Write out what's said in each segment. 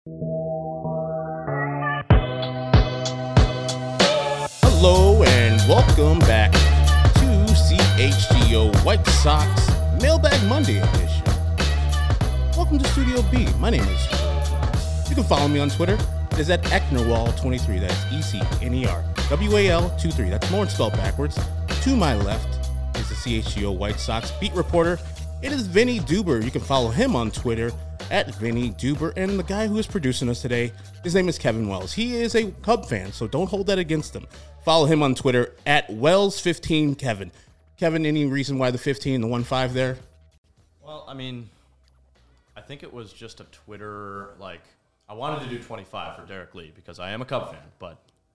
Hello and welcome back to CHGO White Sox Mailbag Monday edition. Welcome to Studio B. My name is Charles. You can follow me on Twitter. It is at Ecknerwall23. That's ECNERWAL23. That's Lawrence spelled backwards. To my left is the CHGO White Sox beat reporter. It is Vinny Duber. You can follow him on Twitter at Vinny Duber. And the guy who is producing us today, his name is Kevin Wells. He is a Cub fan, so don't hold that against him. Follow him on Twitter at Wells15Kevin. Kevin, any reason why the 15, the 1-5 there? Well, I mean, I think it was just a Twitter, I wanted to do 25 for Derek Lee because I am a Cub fan, but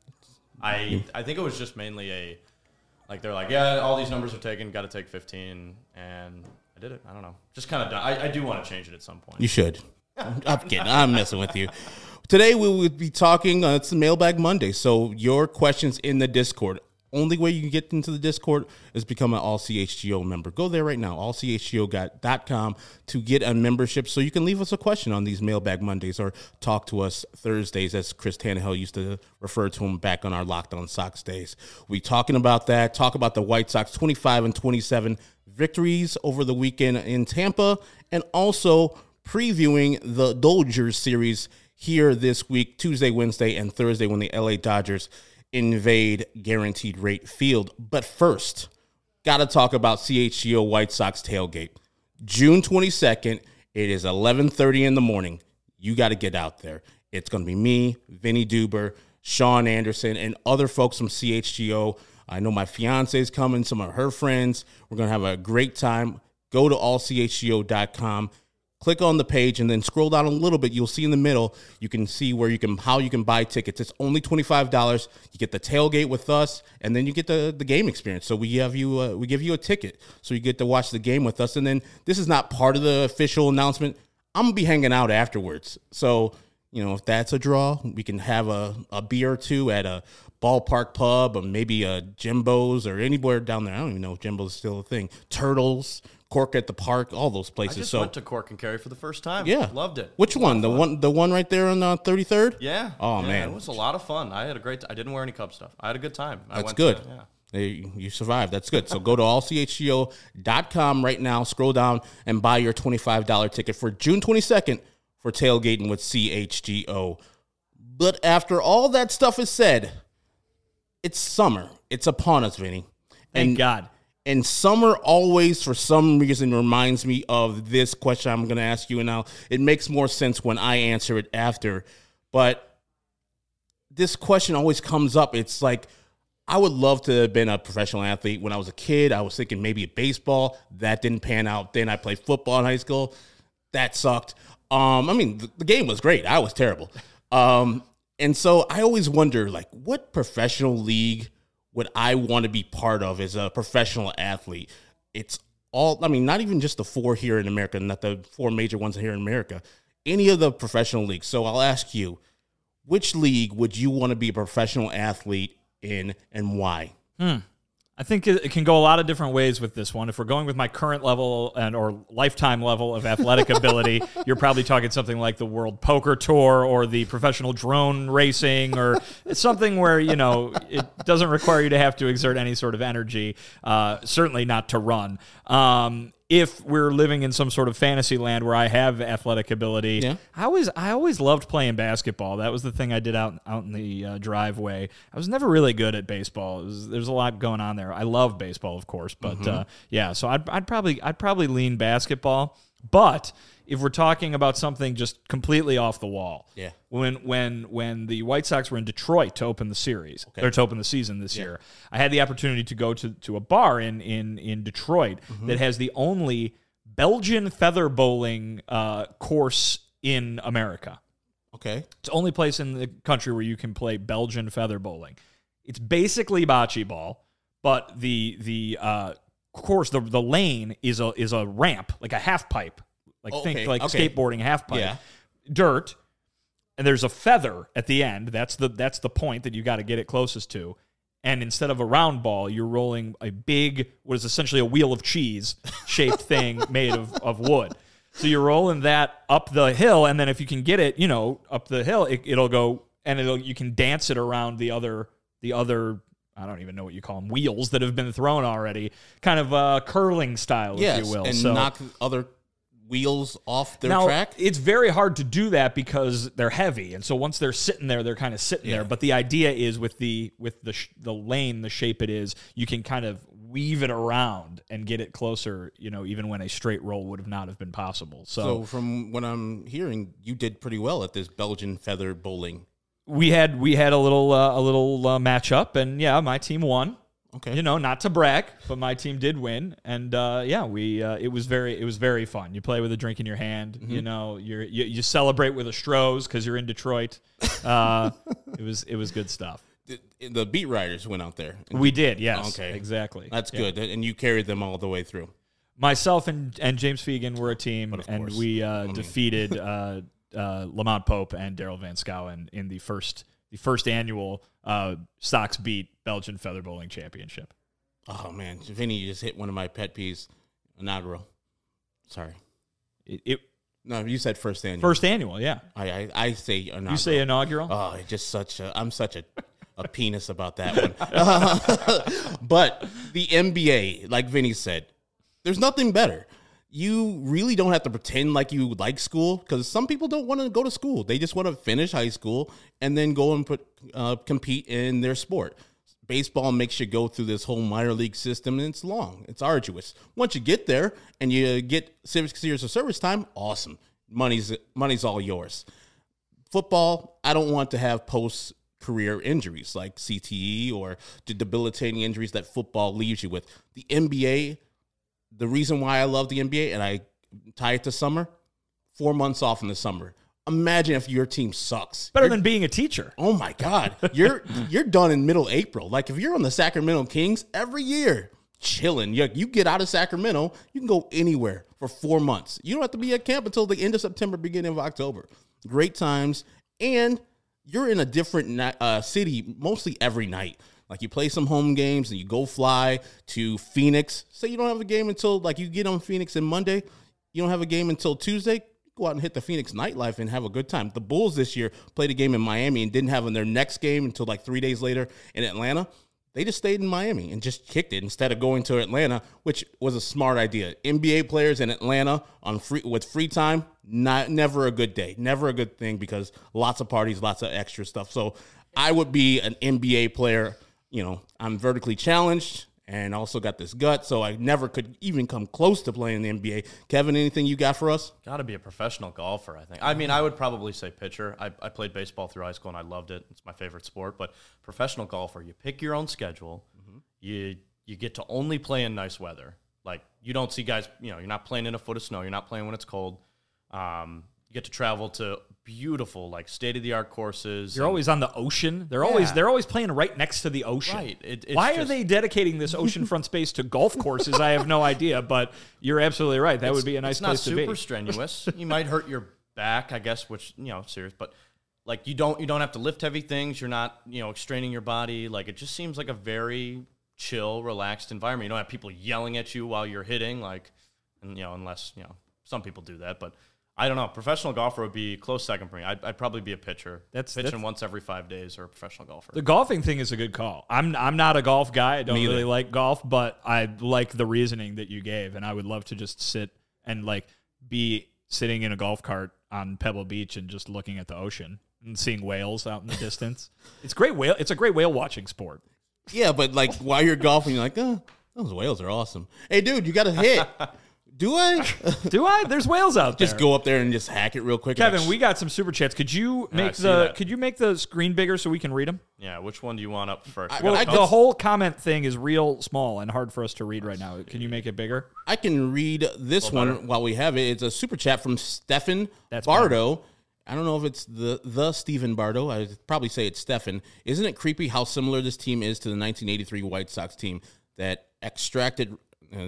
I think it was just mainly they're like, yeah, all these numbers are taken, got to take 15, and I did it. I don't know. Just kind of done. I do want to change it at some point. You should. I'm kidding. I'm messing with you. Today we will be talking, it's Mailbag Monday, so your questions in the Discord. Only way you can get into the Discord is become an All-CHGO member. Go there right now, allchgo.com, to get a membership so you can leave us a question on these Mailbag Mondays or talk to us Thursdays, as Chris Tannehill used to refer to them back on our Locked On Sox days. We talking about that, talk about the White Sox 25-27 victories over the weekend in Tampa, and also previewing the Dodgers series here this week, Tuesday, Wednesday, and Thursday, when the LA Dodgers invade Guaranteed Rate Field. But first, got to talk about CHGO White Sox tailgate. June 22nd, it is 11:30 in the morning. You got to get out there. It's going to be me, Vinny Duber, Sean Anderson, and other folks from CHGO. I know my fiance is coming, some of her friends. We're going to have a great time. Go to allchgo.com. Click on the page and then scroll down a little bit. You'll see in the middle, you can see how you can buy tickets. It's only $25. You get the tailgate with us, and then you get the game experience. So we give you a ticket, so you get to watch the game with us. And then this is not part of the official announcement. I'm gonna be hanging out afterwards. So if that's a draw, we can have a beer or two at a ballpark pub, or maybe a Jimbo's or anywhere down there. I don't even know if Jimbo's is still a thing. Turtles. Cork at the Park, all those places. I just went to Cork and Kerry for the first time. Yeah, loved it. Which one? The one right there on 33rd. Yeah. Oh yeah, man, it was a lot of fun. I had a great. I didn't wear any Cub stuff. I had a good time. That's good. You survived. That's good. So go to allchgo.com right now. Scroll down and buy your $25 ticket for June 22nd for tailgating with CHGO. But after all that stuff is said, it's summer. It's upon us, Vinny. Thank God. And summer always, for some reason, reminds me of this question I'm going to ask you. And now it makes more sense when I answer it after. But this question always comes up. It's like, I would love to have been a professional athlete. When I was a kid, I was thinking maybe baseball. That didn't pan out. Then I played football in high school. That sucked. The game was great. I was terrible. And so I always wonder, what professional league would I want to be part of as a professional athlete? It's all, not even just the four here in America, not the four major ones here in America, any of the professional leagues. So I'll ask you, which league would you want to be a professional athlete in and why? I think it can go a lot of different ways with this one. If we're going with my current level or lifetime level of athletic ability, you're probably talking something like the World Poker Tour or the professional drone racing, or something where, it doesn't require you to have to exert any sort of energy, certainly not to run. If we're living in some sort of fantasy land where I have athletic ability, yeah. I always loved playing basketball. That was the thing I did out in the driveway. I was never really good at baseball. There's a lot going on there. I love baseball, of course, but so I'd probably lean basketball. But if we're talking about something just completely off the wall, yeah. When the White Sox were in Detroit to open the series, or to open the season this year, I had the opportunity to go to a bar in Detroit that has the only Belgian feather bowling course in America. Okay. It's the only place in the country where you can play Belgian feather bowling. It's basically bocce ball, but the course, the lane is a ramp, like a half pipe. Skateboarding half pipe, dirt, and there's a feather at the end. That's the point that you got to get it closest to. And instead of a round ball, you're rolling a big, what is essentially a wheel of cheese shaped thing made of wood. So you're rolling that up the hill, and then if you can get it, up the hill, it'll go, and you can dance it around the other. I don't even know what you call them, wheels that have been thrown already, kind of curling style, if you will. And knock other wheels off their track. It's very hard to do that because they're heavy, and so once they're sitting there, they're kind of sitting there. But the idea is with the lane, the shape it is, you can kind of weave it around and get it closer, even when a straight roll would have not have been possible. So from what I'm hearing, you did pretty well at this Belgian feather bowling. We had a little match up, and my team won. Okay, not to brag, but my team did win, and it was very fun. You play with a drink in your hand, you celebrate with a Stroh's because you're in Detroit. It was good stuff. The beat riders went out there. We did, yes. Okay, exactly. That's good, and you carried them all the way through. Myself and James Fegan were a team, and we defeated. Lamont Pope and Daryl Van Schouwen in the first annual Sox Beat Belgian Feather Bowling Championship. Oh man, Vinny just hit one of my pet peeves. Inaugural. Sorry. No, you said first annual. First annual, yeah. I say inaugural. You say inaugural? Oh, it's just I'm such a penis about that one. But the NBA, like Vinny said, there's nothing better. You really don't have to pretend like you like school, because some people don't want to go to school. They just want to finish high school and then go and compete in their sport. Baseball makes you go through this whole minor league system, and it's long. It's arduous. Once you get there and you get 6 years of service time, awesome. Money's all yours. Football, I don't want to have post-career injuries like CTE or the debilitating injuries that football leaves you with. The NBA, the reason why I love the NBA, and I tie it to summer, 4 months off in the summer. Imagine if your team sucks. Better than being a teacher. Oh my God. You're done in middle April. Like if you're on the Sacramento Kings every year, chilling. You get out of Sacramento, you can go anywhere for 4 months. You don't have to be at camp until the end of September, beginning of October. Great times. And you're in a different city mostly every night. Like you play some home games and you go fly to Phoenix. Say you don't have a game until, like, you get on Phoenix on Monday. You don't have a game until Tuesday. Go out and hit the Phoenix nightlife and have a good time. The Bulls this year played a game in Miami and didn't have their next game until like 3 days later in Atlanta. They just stayed in Miami and just kicked it instead of going to Atlanta, which was a smart idea. NBA players in Atlanta with free time, never a good day. Never a good thing, because lots of parties, lots of extra stuff. So I would be an NBA player. I'm vertically challenged and also got this gut, so I never could even come close to playing in the NBA. Kevin, anything you got for us? Got to be a professional golfer, I think. I mean, I would probably say pitcher. I played baseball through high school, and I loved it. It's my favorite sport. But professional golfer, you pick your own schedule. Mm-hmm. You get to only play in nice weather. Like, you don't see guys, you're not playing in a foot of snow. You're not playing when it's cold. You get to travel to beautiful, like, state-of-the-art courses. You're always on the ocean. They're always playing right next to the ocean. Right. Why are they dedicating this oceanfront space to golf courses? I have no idea, but you're absolutely right. That would be a nice place to be. It's not super strenuous. You might hurt your back, I guess, which, serious, but like you don't have to lift heavy things. You're not, straining your body. Like, it just seems like a very chill, relaxed environment. You don't have people yelling at you while you're hitting, unless, some people do that, but I don't know. Professional golfer would be close second for me. I'd probably be a pitcher. Pitching once every 5 days, or a professional golfer. The golfing thing is a good call. I'm not a golf guy. I don't really like golf, but I like the reasoning that you gave, and I would love to just sit and be sitting in a golf cart on Pebble Beach and just looking at the ocean and seeing whales out in the distance. It's a great whale watching sport. Yeah, but while you're golfing, you're like, those whales are awesome. Hey, dude, you got to hit. Do I? Do I? There's whales out there. Just go up there and just hack it real quick. Kevin, we got some super chats. Could you make the screen bigger so we can read them? Yeah. Which one do you want up first? The whole comment thing is real small and hard for us to read right now. Can you make it bigger? I can read this one while we have it. It's a super chat from Stefan Bardo. I don't know if it's the Stephen Bardo. I'd probably say it's Stefan. Isn't it creepy how similar this team is to the 1983 White Sox team that extricated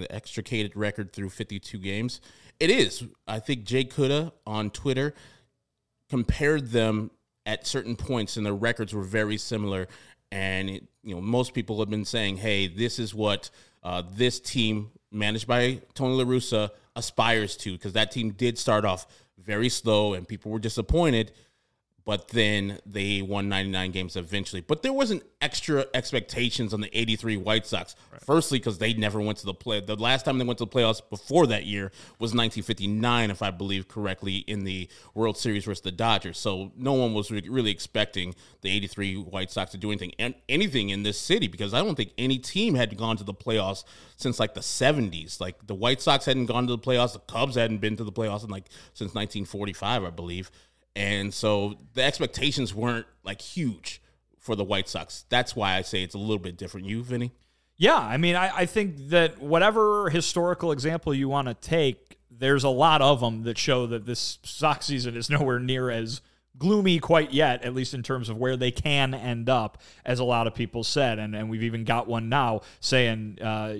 record through 52 games? It is. I think Jay Kuda on Twitter compared them at certain points, and their records were very similar. And most people have been saying, "Hey, this is what this team managed by Tony La Russa aspires to, because that team did start off very slow and people were disappointed, but then they won 99 games eventually. But there wasn't extra expectations on the 83 White Sox. Right. Firstly, because they never went to the play. The last time they went to the playoffs before that year was 1959, if I believe correctly, in the World Series versus the Dodgers. So no one was really expecting the 83 White Sox to do anything in this city, because I don't think any team had gone to the playoffs since like the 70s. Like the White Sox hadn't gone to the playoffs. The Cubs hadn't been to the playoffs since 1945, I believe. And so the expectations weren't like huge for the White Sox. That's why I say it's a little bit different. You, Vinny? Yeah, I mean, I think that whatever historical example you want to take, there's a lot of them that show that this Sox season is nowhere near as gloomy quite yet, at least in terms of where they can end up, as a lot of people said. And we've even got one now saying,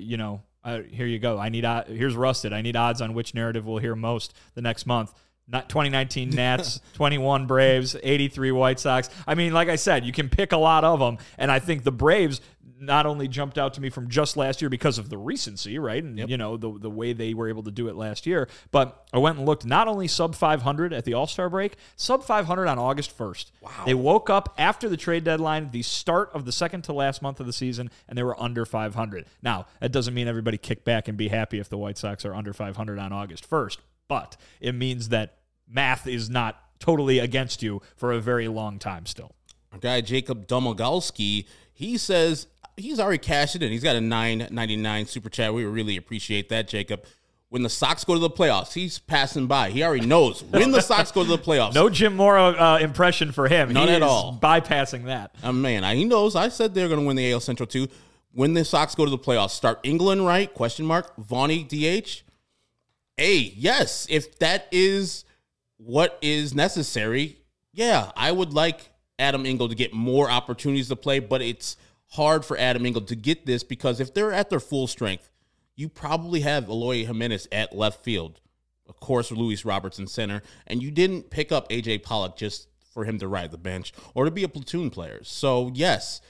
here you go. Here's Rusted. I need odds on which narrative we'll hear most the next month. Not 2019 Nats, 21 Braves, 83 White Sox. I mean, like I said, you can pick a lot of them, and I think the Braves not only jumped out to me from just last year because of the recency, right, and the way they were able to do it last year, but I went and looked not only sub 500 at the All-Star break, sub 500 on August 1st. Wow. They woke up after the trade deadline, the start of the second to last month of the season, and they were under 500. Now, that doesn't mean everybody kick back and be happy if the White Sox are under 500 on August 1st, but it means that math is not totally against you for a very long time still. Our guy Jacob Domogolski, he says he's already cashed it in. He's got a $9.99 super chat. We really appreciate that, Jacob. When the Sox go to the playoffs, he's passing by. He already knows when the Sox go to the playoffs. No Jim Mora impression for him. None at all. Bypassing that. He knows. I said they're going to win the AL Central too. When the Sox go to the playoffs, start England right? Vaughny DH. Hey, yes, if that is what is necessary, yeah, I would like Adam Engel to get more opportunities to play, but it's hard for Adam Engel to get this because if they're at their full strength, you probably have Eloy Jimenez at left field, of course, Luis Robertson center, and you didn't pick up A.J. Pollock just for him to ride the bench or to be a platoon player. So, yes,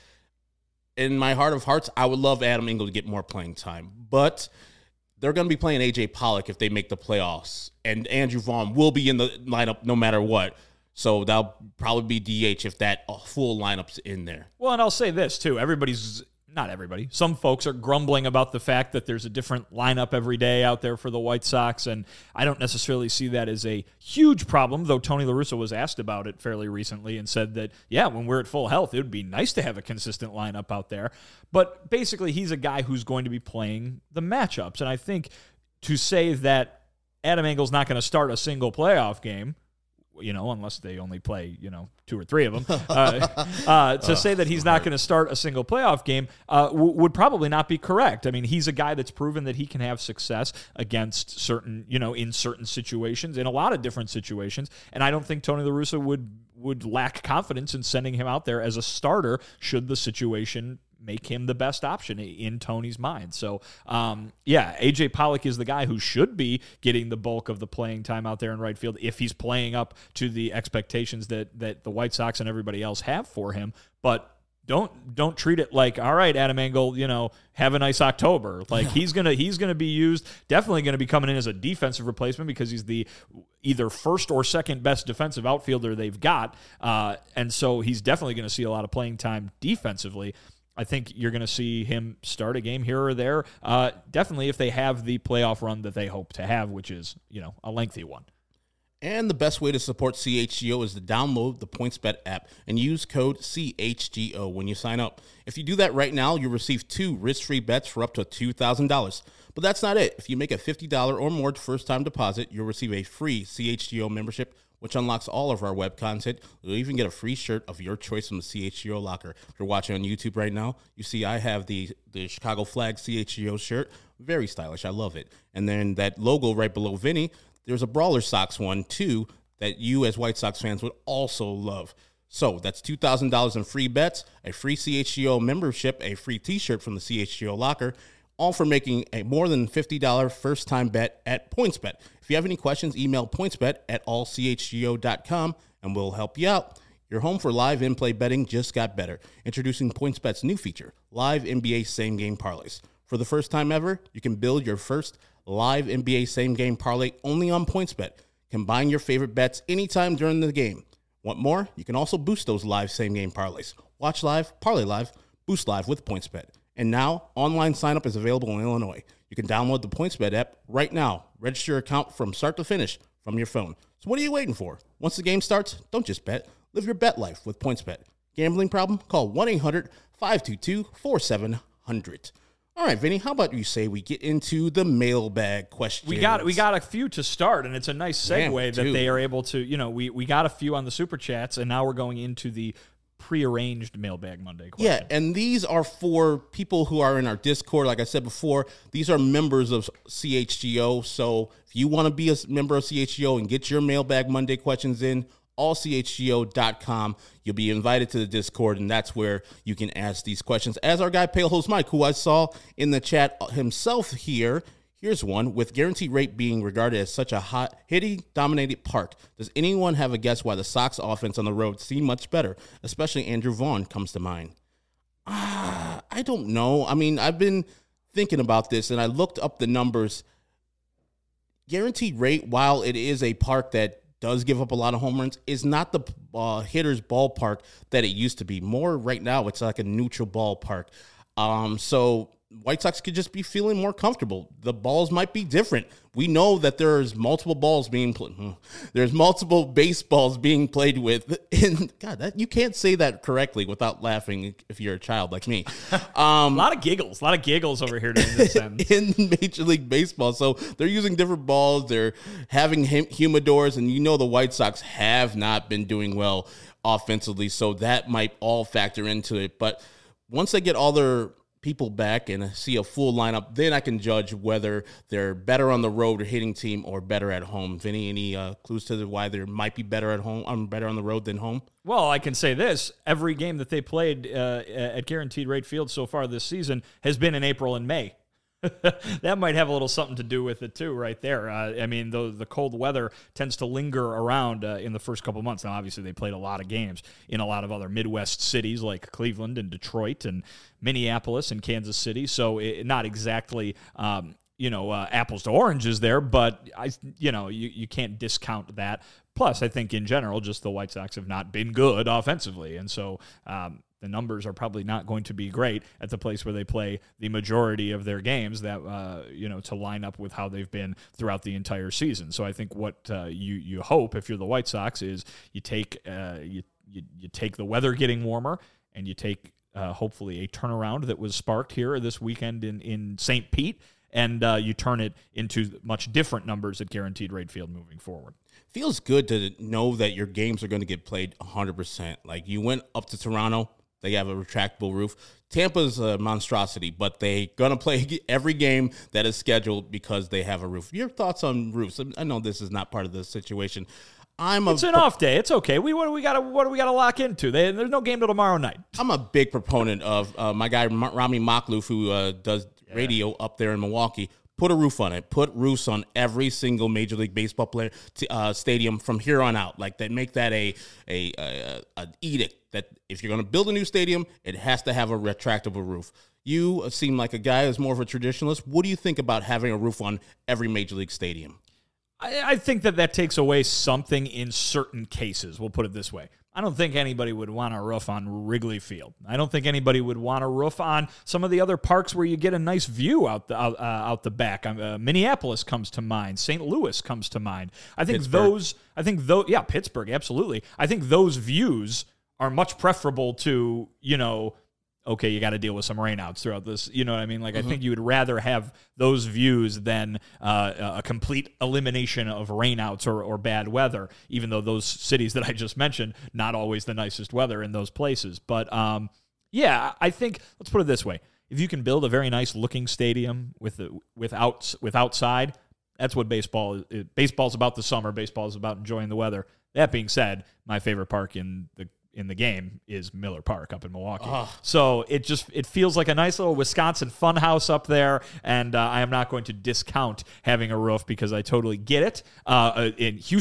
in my heart of hearts, I would love Adam Engel to get more playing time, but they're going to be playing A.J. Pollock if they make the playoffs, and Andrew Vaughn will be in the lineup no matter what. So that'll probably be DH if that full lineup's in there. Well, and I'll say this, too. Not everybody. Some folks are grumbling about the fact that there's a different lineup every day out there for the White Sox, and I don't necessarily see that as a huge problem, though Tony La Russa was asked about it fairly recently and said that, yeah, when we're at full health, it would be nice to have a consistent lineup out there. But basically, he's a guy who's going to be playing the matchups, and I think to say that Adam Engel's not going to start a single playoff game, unless they only play, 2 or 3 of them, to say that he's not going to start a single playoff game would probably not be correct. I mean, he's a guy that's proven that he can have success against certain, in certain situations, in a lot of different situations, and I don't think Tony La Russa would lack confidence in sending him out there as a starter should the situation make him the best option in Tony's mind. So, A.J. Pollock is the guy who should be getting the bulk of the playing time out there in right field if he's playing up to the expectations that the White Sox and everybody else have for him. But don't treat it like, all right, Adam Engel, have a nice October. Like he's gonna be used, definitely gonna be coming in as a defensive replacement because he's the either first or second best defensive outfielder they've got, and so he's definitely gonna see a lot of playing time defensively. I think you're going to see him start a game here or there. Definitely if they have the playoff run that they hope to have, which is, a lengthy one. And the best way to support CHGO is to download the PointsBet app and use code CHGO when you sign up. If you do that right now, you'll receive 2 risk-free bets for up to $2,000. But that's not it. If you make a $50 or more first-time deposit, you'll receive a free CHGO membership, which unlocks all of our web content. You'll even get a free shirt of your choice from the CHGO locker. If you're watching on YouTube right now, you see I have the Chicago Flag CHGO shirt. Very stylish. I love it. And then that logo right below Vinny, there's a Brawler Sox one, too, that you as White Sox fans would also love. So that's $2,000 in free bets, a free CHGO membership, a free T-shirt from the CHGO locker, all for making a more than $50 first-time bet at PointsBet. If you have any questions, email pointsbet@allchgo.com, and we'll help you out. Your home for live in-play betting just got better. Introducing PointsBet's new feature, live NBA same-game parlays. For the first time ever, you can build your first live NBA same-game parlay only on PointsBet. Combine your favorite bets anytime during the game. Want more? You can also boost those live same-game parlays. Watch live, parlay live, boost live with PointsBet. And now, online sign-up is available in Illinois. You can download the PointsBet app right now. Register your account from start to finish from your phone. So what are you waiting for? Once the game starts, don't just bet. Live your bet life with PointsBet. Gambling problem? Call 1-800-522-4700. All right, Vinny, how about you say we get into the mailbag questions? We got a few to start, and it's a nice segue that they are able to, we got a few on the Super Chats, and now we're going into the prearranged Mailbag Monday question. Yeah, and these are for people who are in our Discord. Like I said before, these are members of CHGO, so if you want to be a member of CHGO and get your Mailbag Monday questions in, allchgo.com. You'll be invited to the Discord, and that's where you can ask these questions. As our guy, Pale Host Mike, who I saw in the chat himself here, here's one. With Guaranteed Rate being regarded as such a hot, hitting-dominated park, does anyone have a guess why the Sox offense on the road seemed much better? Especially Andrew Vaughn comes to mind. I don't know. I mean, I've been thinking about this, and I looked up the numbers. Guaranteed Rate, while it is a park that does give up a lot of home runs, is not the hitter's ballpark that it used to be. More right now, it's like a neutral ballpark. So White Sox could just be feeling more comfortable. The balls might be different. We know that there's multiple balls being played. There's multiple baseballs being played with. And God, you can't say that correctly without laughing if you're a child like me. A lot of giggles over here during this sentence. In Major League Baseball. So they're using different balls. They're having humidors, and the White Sox have not been doing well offensively. So that might all factor into it. But once they get all their people back and see a full lineup, then I can judge whether they're better on the road or hitting team or better at home. Vinny, any clues to why they might be better at home, better on the road than home? Well, I can say this. Every game that they played at Guaranteed Rate Field so far this season has been in April and May. That might have a little something to do with it too, right there. I mean, the cold weather tends to linger around in the first couple months. Now, obviously, they played a lot of games in a lot of other Midwest cities like Cleveland and Detroit and Minneapolis and Kansas City. So not exactly apples to oranges there, but you can't discount that. Plus, I think in general, just the White Sox have not been good offensively, and so the numbers are probably not going to be great at the place where they play the majority of their games that, to line up with how they've been throughout the entire season. So I think what you hope if you're the White Sox is you take the weather getting warmer and you take hopefully a turnaround that was sparked here this weekend in St. Pete, and you turn it into much different numbers at Guaranteed Rate Field moving forward. Feels good to know that your games are going to get played 100%. Like, you went up to Toronto, they have a retractable roof. Tampa's a monstrosity, but they're going to play every game that is scheduled because they have a roof. Your thoughts on roofs? I know this is not part of the situation. It's an off day. It's okay. What do we got to lock into? There's no game till tomorrow night. I'm a big proponent of my guy Rami Maklouf, who does radio up there in Milwaukee. Put a roof on it. Put roofs on every single Major League Baseball player stadium from here on out. Like, that, make that an edict that if you're going to build a new stadium, it has to have a retractable roof. You seem like a guy who's more of a traditionalist. What do you think about having a roof on every Major League stadium? I think that takes away something in certain cases. We'll put it this way. I don't think anybody would want a roof on Wrigley Field. I don't think anybody would want a roof on some of the other parks where you get a nice view out the back. Minneapolis comes to mind. St. Louis comes to mind. Pittsburgh, absolutely. I think those views are much preferable to, okay, you got to deal with some rainouts throughout this. You know what I mean? Like, I think you would rather have those views than a complete elimination of rainouts or bad weather, even though those cities that I just mentioned, not always the nicest weather in those places. But, I think, let's put it this way. If you can build a very nice looking stadium with outside, that's what baseball is. Baseball's about the summer. Baseball is about enjoying the weather. That being said, my favorite park in the game is Miller Park up in Milwaukee. So it feels like a nice little Wisconsin fun house up there, and I am not going to discount having a roof because I totally get it. In Houston,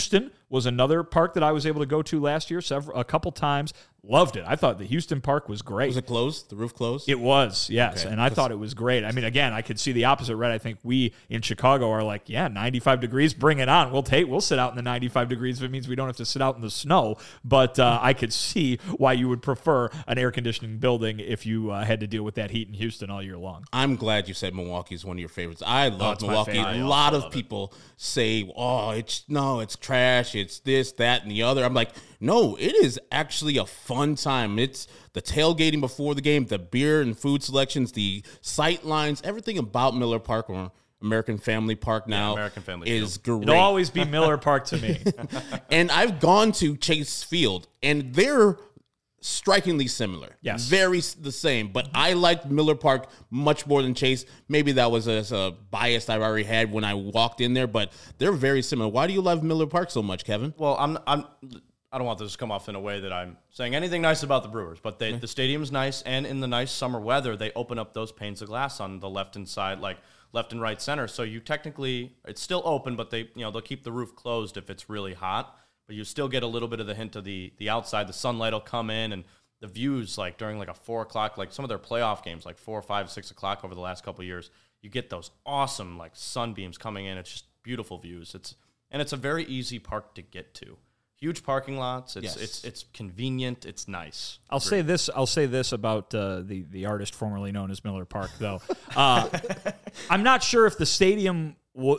was another park that I was able to go to last year a couple times. Loved it. I thought the Houston Park was great. Was it closed? The roof closed? It was, yes. Okay. And I thought it was great. I mean, again, I could see the opposite, right? I think we in Chicago are like, yeah, 95 degrees, bring it on. We'll sit out in the 95 degrees if it means we don't have to sit out in the snow. But I could see why you would prefer an air conditioning building if you had to deal with that heat in Houston all year long. I'm glad you said Milwaukee is one of your favorites. I love it's my Milwaukee. favorite. A lot of people say, "Oh, it's trash. It's this, that, and the other." I'm like, no, it is actually a fun time. It's the tailgating before the game, the beer and food selections, the sight lines, everything about Miller Park or American Family Park now American Family is Field. great. It'll always be Miller Park to me. And I've gone to Chase Field, and they're strikingly similar. Yes. Very the same. But I liked Miller Park much more than Chase. Maybe that was a bias I already had when I walked in there, but they're very similar. Why do you love Miller Park so much, Kevin? Well, I don't want this to come off in a way that I'm saying anything nice about the Brewers, but the stadium's nice, and in the nice summer weather, they open up those panes of glass on the left and side, like left and right center. So you technically, it's still open, but they'll keep the roof closed if it's really hot. But you still get a little bit of the hint of the outside. The sunlight will come in, and the views, like during like a 4 o'clock, like some of their playoff games, like 4, 5, 6 o'clock over the last couple of years, you get those awesome like sunbeams coming in. It's just beautiful views. It's a very easy park to get to. Huge parking lots. It's convenient. It's nice. I'll say this about the artist formerly known as Miller Park, though. I'm not sure if the stadium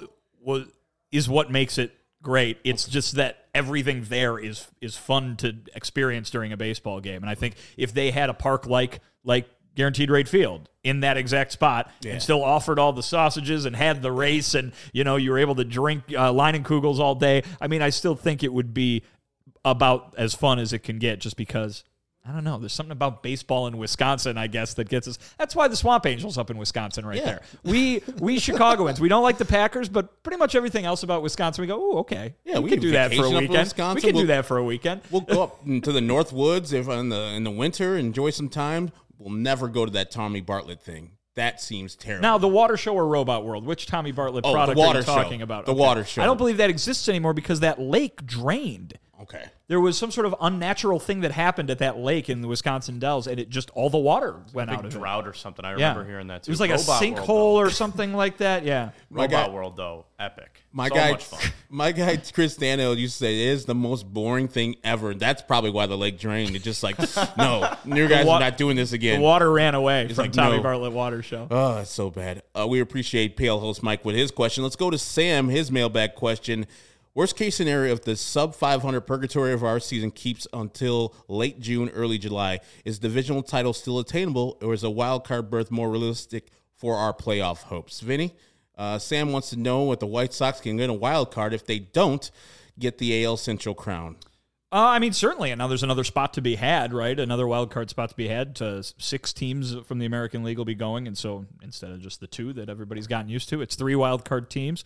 is what makes it great. It's just that everything there is fun to experience during a baseball game. And I think if they had a park like Guaranteed Rate Field in that exact spot and still offered all the sausages and had the race and, you were able to drink Leinenkugels all day, I mean, I still think it would be about as fun as it can get just because, I don't know, there's something about baseball in Wisconsin, I guess, that gets us. That's why the Swamp Angels up in Wisconsin there. We Chicagoans, we don't like the Packers, but pretty much everything else about Wisconsin, we go, oh, okay. Yeah, we can do that for a weekend. We can do that for a weekend. We'll go up to the North Woods in the winter, enjoy some time. We'll never go to that Tommy Bartlett thing. That seems terrible. Now, the Water Show or Robot World, which Tommy Bartlett product are you talking about? The Water Show. I don't believe that exists anymore because that lake drained. Okay. There was some sort of unnatural thing that happened at that lake in the Wisconsin Dells, and it just, all the water went out of it. Drought or something. I remember hearing that too. It was like Robot a sinkhole or something like that. Yeah. Robot World, though, epic. Much fun. My guy Chris Daniel used to say it is the most boring thing ever. That's probably why the lake drained. It's just like, no, you guys are not doing this again. The water ran away from like, Tommy no. Bartlett Water Show. Oh, it's so bad. We appreciate Pale Host Mike with his question. Let's go to Sam, his mailbag question. Worst case scenario, if the sub 500 purgatory of our season keeps until late June, early July, is divisional title still attainable, or is a wild card berth more realistic for our playoff hopes? Vinny, Sam wants to know if the White Sox can get a wild card if they don't get the AL Central crown. I mean, certainly. And now there's another spot to be had, right? Another wild card spot to be had. 6 teams from the American League will be going, and so instead of just the 2 that everybody's gotten used to, it's 3 wild card teams.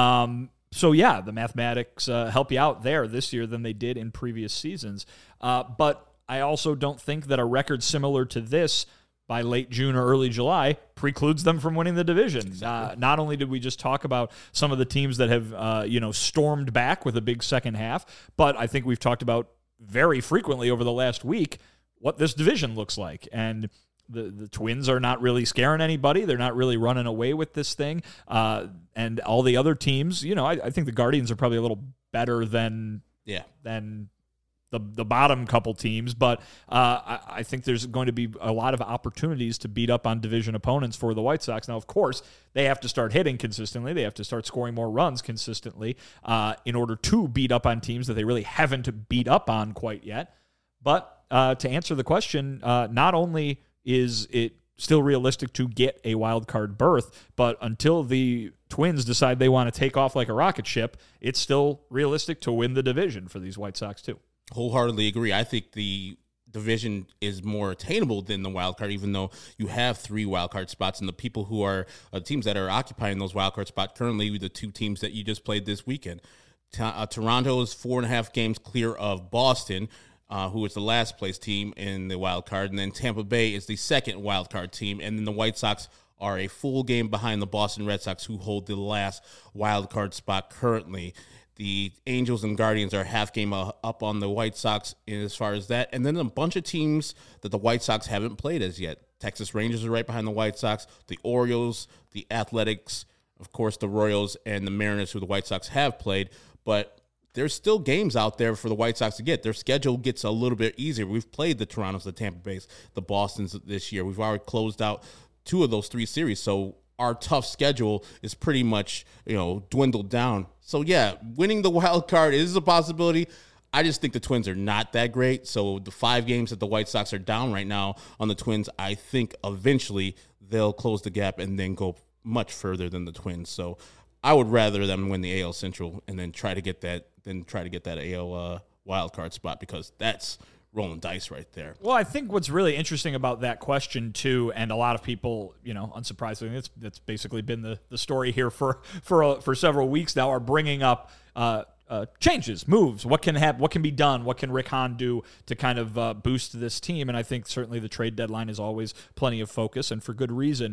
So, yeah, the mathematics help you out there this year than they did in previous seasons. But I also don't think that a record similar to this by late June or early July precludes them from winning the division. Exactly. Not only did we just talk about some of the teams that have, stormed back with a big second half, but I think we've talked about very frequently over the last week what this division looks like. And the Twins are not really scaring anybody. They're not really running away with this thing. And all the other teams, I think the Guardians are probably a little better than the bottom couple teams. But I think there's going to be a lot of opportunities to beat up on division opponents for the White Sox. Now, of course, they have to start hitting consistently. They have to start scoring more runs consistently in order to beat up on teams that they really haven't beat up on quite yet. But to answer the question, not only is it still realistic to get a wild card berth, but until the Twins decide they want to take off like a rocket ship, it's still realistic to win the division for these White Sox too. Wholeheartedly agree. I think the division is more attainable than the wild card, even though you have 3 wild card spots, and the people who are teams that are occupying those wild card spots currently, the 2 teams that you just played this weekend. Toronto is 4.5 games clear of Boston, who is the last place team in the wild card, and then Tampa Bay is the second wild card team, and then the White Sox are a full game behind the Boston Red Sox, who hold the last wild card spot currently. The Angels and Guardians are half game up on the White Sox as far as that. And then a bunch of teams that the White Sox haven't played as yet. Texas Rangers are right behind the White Sox, the Orioles, the Athletics, of course, the Royals, and the Mariners, who the White Sox have played. But there's still games out there for the White Sox to get. Their schedule gets a little bit easier. We've played the Torontos, the Tampa Bays, the Bostons this year. We've already closed out 2 of those 3 series. So our tough schedule is pretty much, dwindled down. So, yeah, winning the wild card is a possibility. I just think the Twins are not that great. So the 5 games that the White Sox are down right now on the Twins, I think eventually they'll close the gap and then go much further than the Twins. So I would rather them win the AL Central and then try to get that AL wild card spot, because that's rolling dice right there. Well, I think what's really interesting about that question too, and a lot of people, unsurprisingly, that's basically been the story here for several weeks now, are bringing up changes, moves, what can be done, what can Rick Hahn do to kind of boost this team. And I think certainly the trade deadline is always plenty of focus, and for good reason.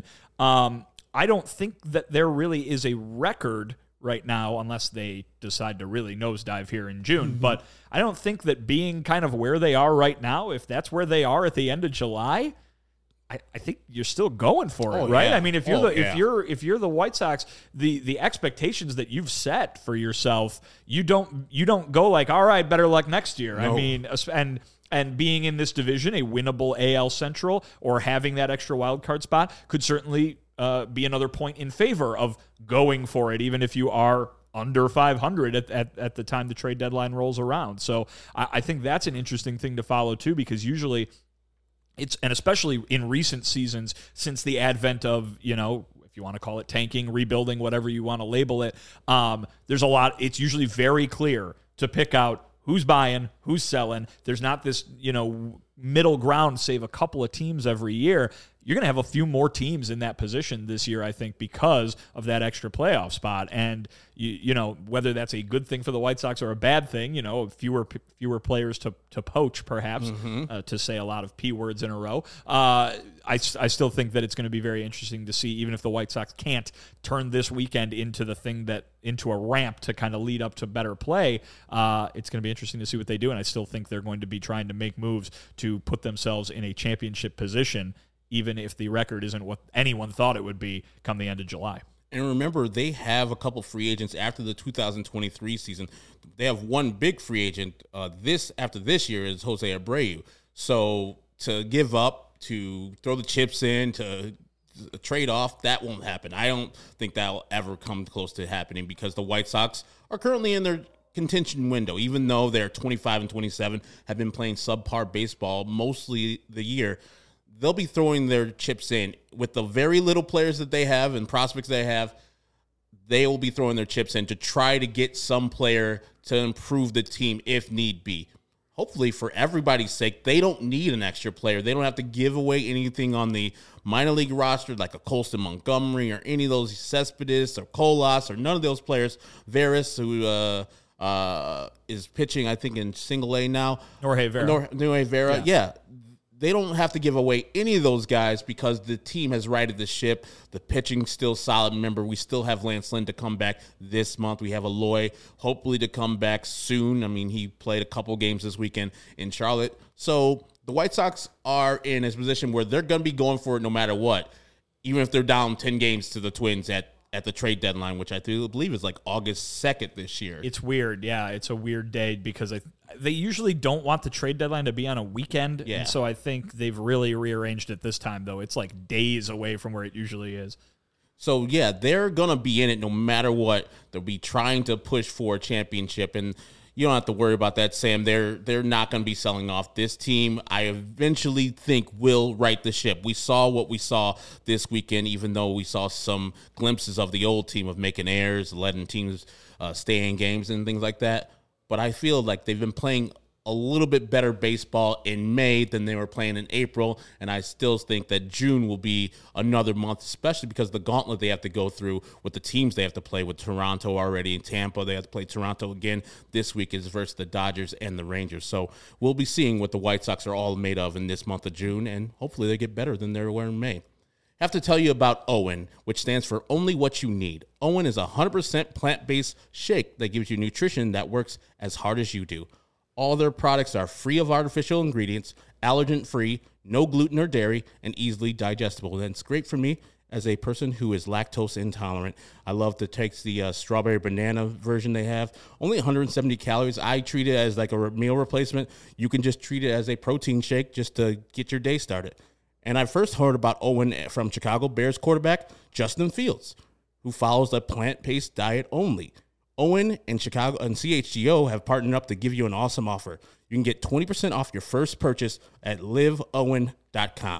I don't think that there really is a record right now, unless they decide to really nosedive here in June. Mm-hmm. But I don't think that being kind of where they are right now, if that's where they are at the end of July, I think you're still going for it, right? Yeah. I mean, if you're the White Sox, the expectations that you've set for yourself, you don't go like, all right, better luck next year. No. I mean, and being in this division, a winnable AL Central, or having that extra wild card spot could certainly be another point in favor of going for it, even if you are under 500 at the time the trade deadline rolls around. So I think that's an interesting thing to follow too, because usually and especially in recent seasons, since the advent of, if you want to call it tanking, rebuilding, whatever you want to label it, there's a lot. It's usually very clear to pick out who's buying, who's selling. There's not this, middle ground, save a couple of teams every year. You're going to have a few more teams in that position this year, I think, because of that extra playoff spot. And, whether that's a good thing for the White Sox or a bad thing, fewer players to poach, perhaps, to say a lot of P words in a row. I still think that it's going to be very interesting to see, even if the White Sox can't turn this weekend into into a ramp to kind of lead up to better play. It's going to be interesting to see what they do. And I still think they're going to be trying to make moves to put themselves in a championship position, even if the record isn't what anyone thought it would be come the end of July. And remember, they have a couple free agents after the 2023 season. They have one big free agent after this year is Jose Abreu. So to give up, to throw the chips in, to trade off, that won't happen. I don't think that will ever come close to happening, because the White Sox are currently in their contention window, even though they're 25 and 27, have been playing subpar baseball mostly the year. They'll be throwing their chips in with the very little players that they have and prospects they have. They will be throwing their chips in to try to get some player to improve the team if need be. Hopefully, for everybody's sake, they don't need an extra player. They don't have to give away anything on the minor league roster like a Colston Montgomery or any of those Cespedes or Colas or none of those players. Veras, who is pitching, I think, in single A now. Jorge Vera. Yeah. They don't have to give away any of those guys, because the team has righted the ship. The pitching's still solid. Remember, we still have Lance Lynn to come back this month. We have Eloy, hopefully, to come back soon. I mean, he played a couple games this weekend in Charlotte. So the White Sox are in a position where they're going to be going for it no matter what, even if they're down 10 games to the Twins at the trade deadline, which I believe is like August 2nd this year. It's weird. Yeah, it's a weird day, because they usually don't want the trade deadline to be on a weekend. Yeah. And so I think they've really rearranged it this time, though. It's like days away from where it usually is. So, yeah, they're going to be in it no matter what. They'll be trying to push for a championship, and you don't have to worry about that, Sam. They're not going to be selling off. This team, I eventually think, will right the ship. We saw what we saw this weekend, even though we saw some glimpses of the old team of making errors, letting teams stay in games and things like that. But I feel like they've been playing a little bit better baseball in May than they were playing in April, and I still think that June will be another month, especially because the gauntlet they have to go through with the teams they have to play with. Toronto already in Tampa. They have to play Toronto again this week is versus the Dodgers and the Rangers. So we'll be seeing what the White Sox are all made of in this month of June, and hopefully they get better than they were in May. Have to tell you about OWYN, which stands for Only What You Need. OWYN is a 100% plant-based shake that gives you nutrition that works as hard as you do. All their products are free of artificial ingredients, allergen-free, no gluten or dairy, and easily digestible. And it's great for me as a person who is lactose intolerant. I love to take the strawberry banana version they have. Only 170 calories. I treat it as like a meal replacement. You can just treat it as a protein shake just to get your day started. And I first heard about OWYN from Chicago Bears quarterback Justin Fields, who follows a plant-based diet only. OWYN and Chicago and CHGO have partnered up to give you an awesome offer. You can get 20% off your first purchase at liveowyn.com.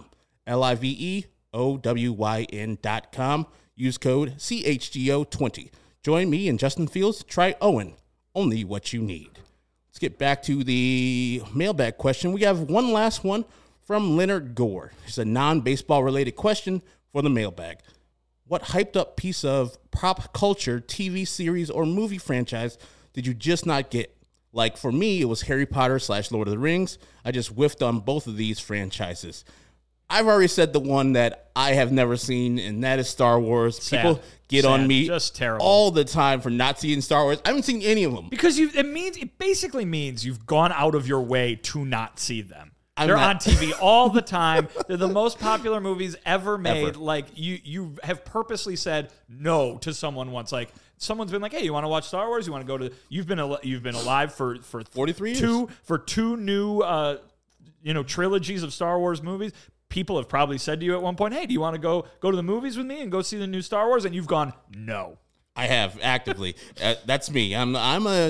LIVEOWYN.com. Use code CHGO20. Join me and Justin Fields. Try OWYN. Only what you need. Let's get back to the mailbag question. We have one last one from Leonard Gore. It's a non-baseball related question for the mailbag. What hyped up piece of pop culture, TV series, or movie franchise did you just not get? Like for me, it was Harry Potter / Lord of the Rings. I just whiffed on both of these franchises. I've already said the one that I have never seen, and that is Star Wars. Sad. People get on me Just terrible. all the time for not seeing Star Wars. I haven't seen any of them. Because it basically means you've gone out of your way to not see them. I'm They're not- on TV all the time. They're the most popular movies ever made. Ever. Like you have purposely said no to someone once. Like someone's been like, "Hey, you want to watch Star Wars? You want to go to?" You've been alive for 43 years. two new trilogies of Star Wars movies. People have probably said to you at one point, "Hey, do you want to go to the movies with me and go see the new Star Wars?" And you've gone no. I have actively. That's me. I'm a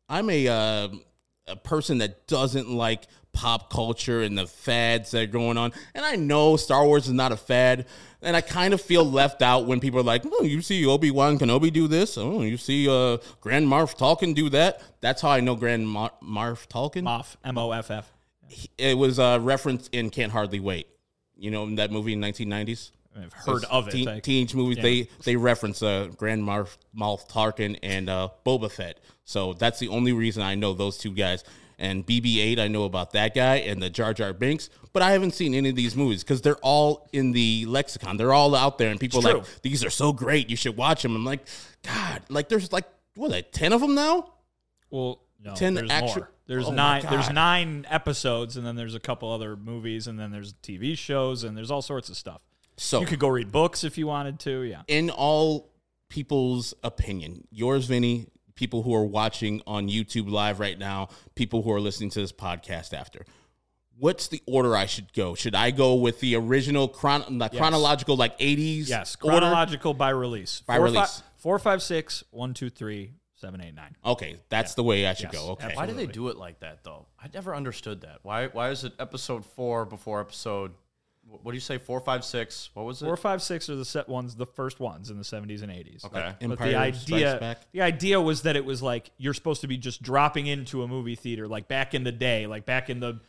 person that doesn't like pop culture and the fads that are going on. And I know Star Wars is not a fad. And I kind of feel left out when people are like, "Oh, you see Obi-Wan Kenobi do this. Oh, you see Grand Moff Tarkin do that." That's how I know Grand Moff Tarkin. Moff, M-O-F-F. It was referenced in Can't Hardly Wait. You know, in that movie in 1990s. I've heard of it. Teenage movies, Yeah. they reference Grand Moff Tarkin and Boba Fett. So that's the only reason I know those two guys. And BB-8, I know about that guy and the Jar Jar Binks. But I haven't seen any of these movies because they're all in the lexicon. They're all out there, and people are like, "These are so great, you should watch them." I'm like, God, like there's like 10 of them now. Well, no, 10 there's actual- more. There's Oh my 9. God. There's 9 episodes, and then there's a couple other movies, and then there's TV shows, and there's all sorts of stuff. So You could go read books if you wanted to. Yeah. in all people's opinion, yours, Vinny, people who are watching on YouTube live right now, people who are listening to this podcast after, what's the order I should go? Should I go with the original chronological, like 80s? Yes. order? Chronological by release. By release. 4, 5, 6, 1, 2, 3, 7, 8, 9. Okay, that's the way I should Yes, go. Okay. Why do they Absolutely. do it like that, though? I never understood that. Why is it episode 4 before episode? What do you say? 4, 5, 6. What was it? 4, 5, 6 are the first ones in the 70s and 80s. Okay. But Empire Strikes Back. the idea was that it was like you're supposed to be just dropping into a movie theater, like back in the day, like back in the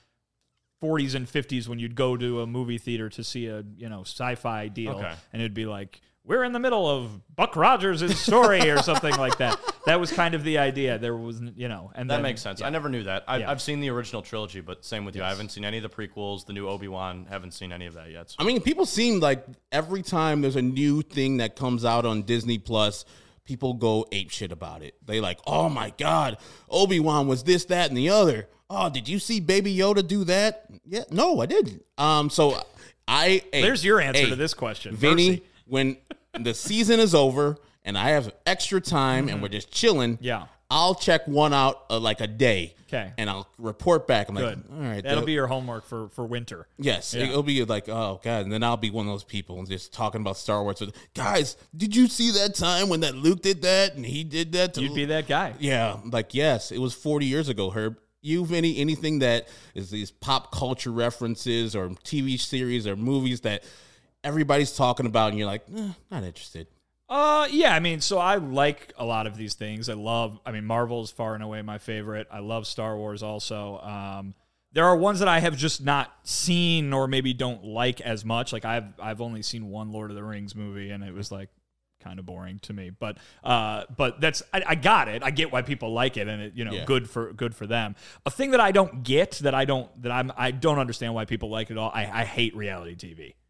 40s and 50s when you'd go to a movie theater to see a sci-fi deal, Okay. and it'd be like, we're in the middle of Buck Rogers' story or something like that. That was kind of the idea. There was, and That then, makes sense. yeah. I never knew that. Yeah. I've seen the original trilogy, but same with you. I haven't seen any of the prequels, the new Obi-Wan. Haven't seen any of that yet. So. I mean, people seem like every time there's a new thing that comes out on Disney Plus, people go apeshit about it. They like, "Oh my God, Obi-Wan was this, that, and the other. Oh, did you see Baby Yoda do that?" Yeah, no, I didn't. So There's your answer to this question, Vinny. Mercy. When the season is over and I have extra time and we're just chilling, Yeah. I'll check one out like a day. 'Kay. And I'll report back. I'm Good. like, all right. That'll be your homework for winter. Yes, Yeah. it'll be like, oh God, and then I'll be one of those people and just talking about Star Wars. Guys, did you see that time when that Luke did that and he did that? To You'd be that guy. Yeah, like yes, it was 40 years ago, Herb. You, Vinny, anything that is these pop culture references or TV series or movies that everybody's talking about, and you're like, not interested. Yeah, I mean, so I like a lot of these things. Marvel is far and away my favorite. I love Star Wars also. There are ones that I have just not seen or maybe don't like as much. Like I've only seen one Lord of the Rings movie, and it was like kind of boring to me. But that's I got it. I get why people like it, and it Yeah. good for them. A thing that I don't get I don't understand why people like it all. I hate reality TV.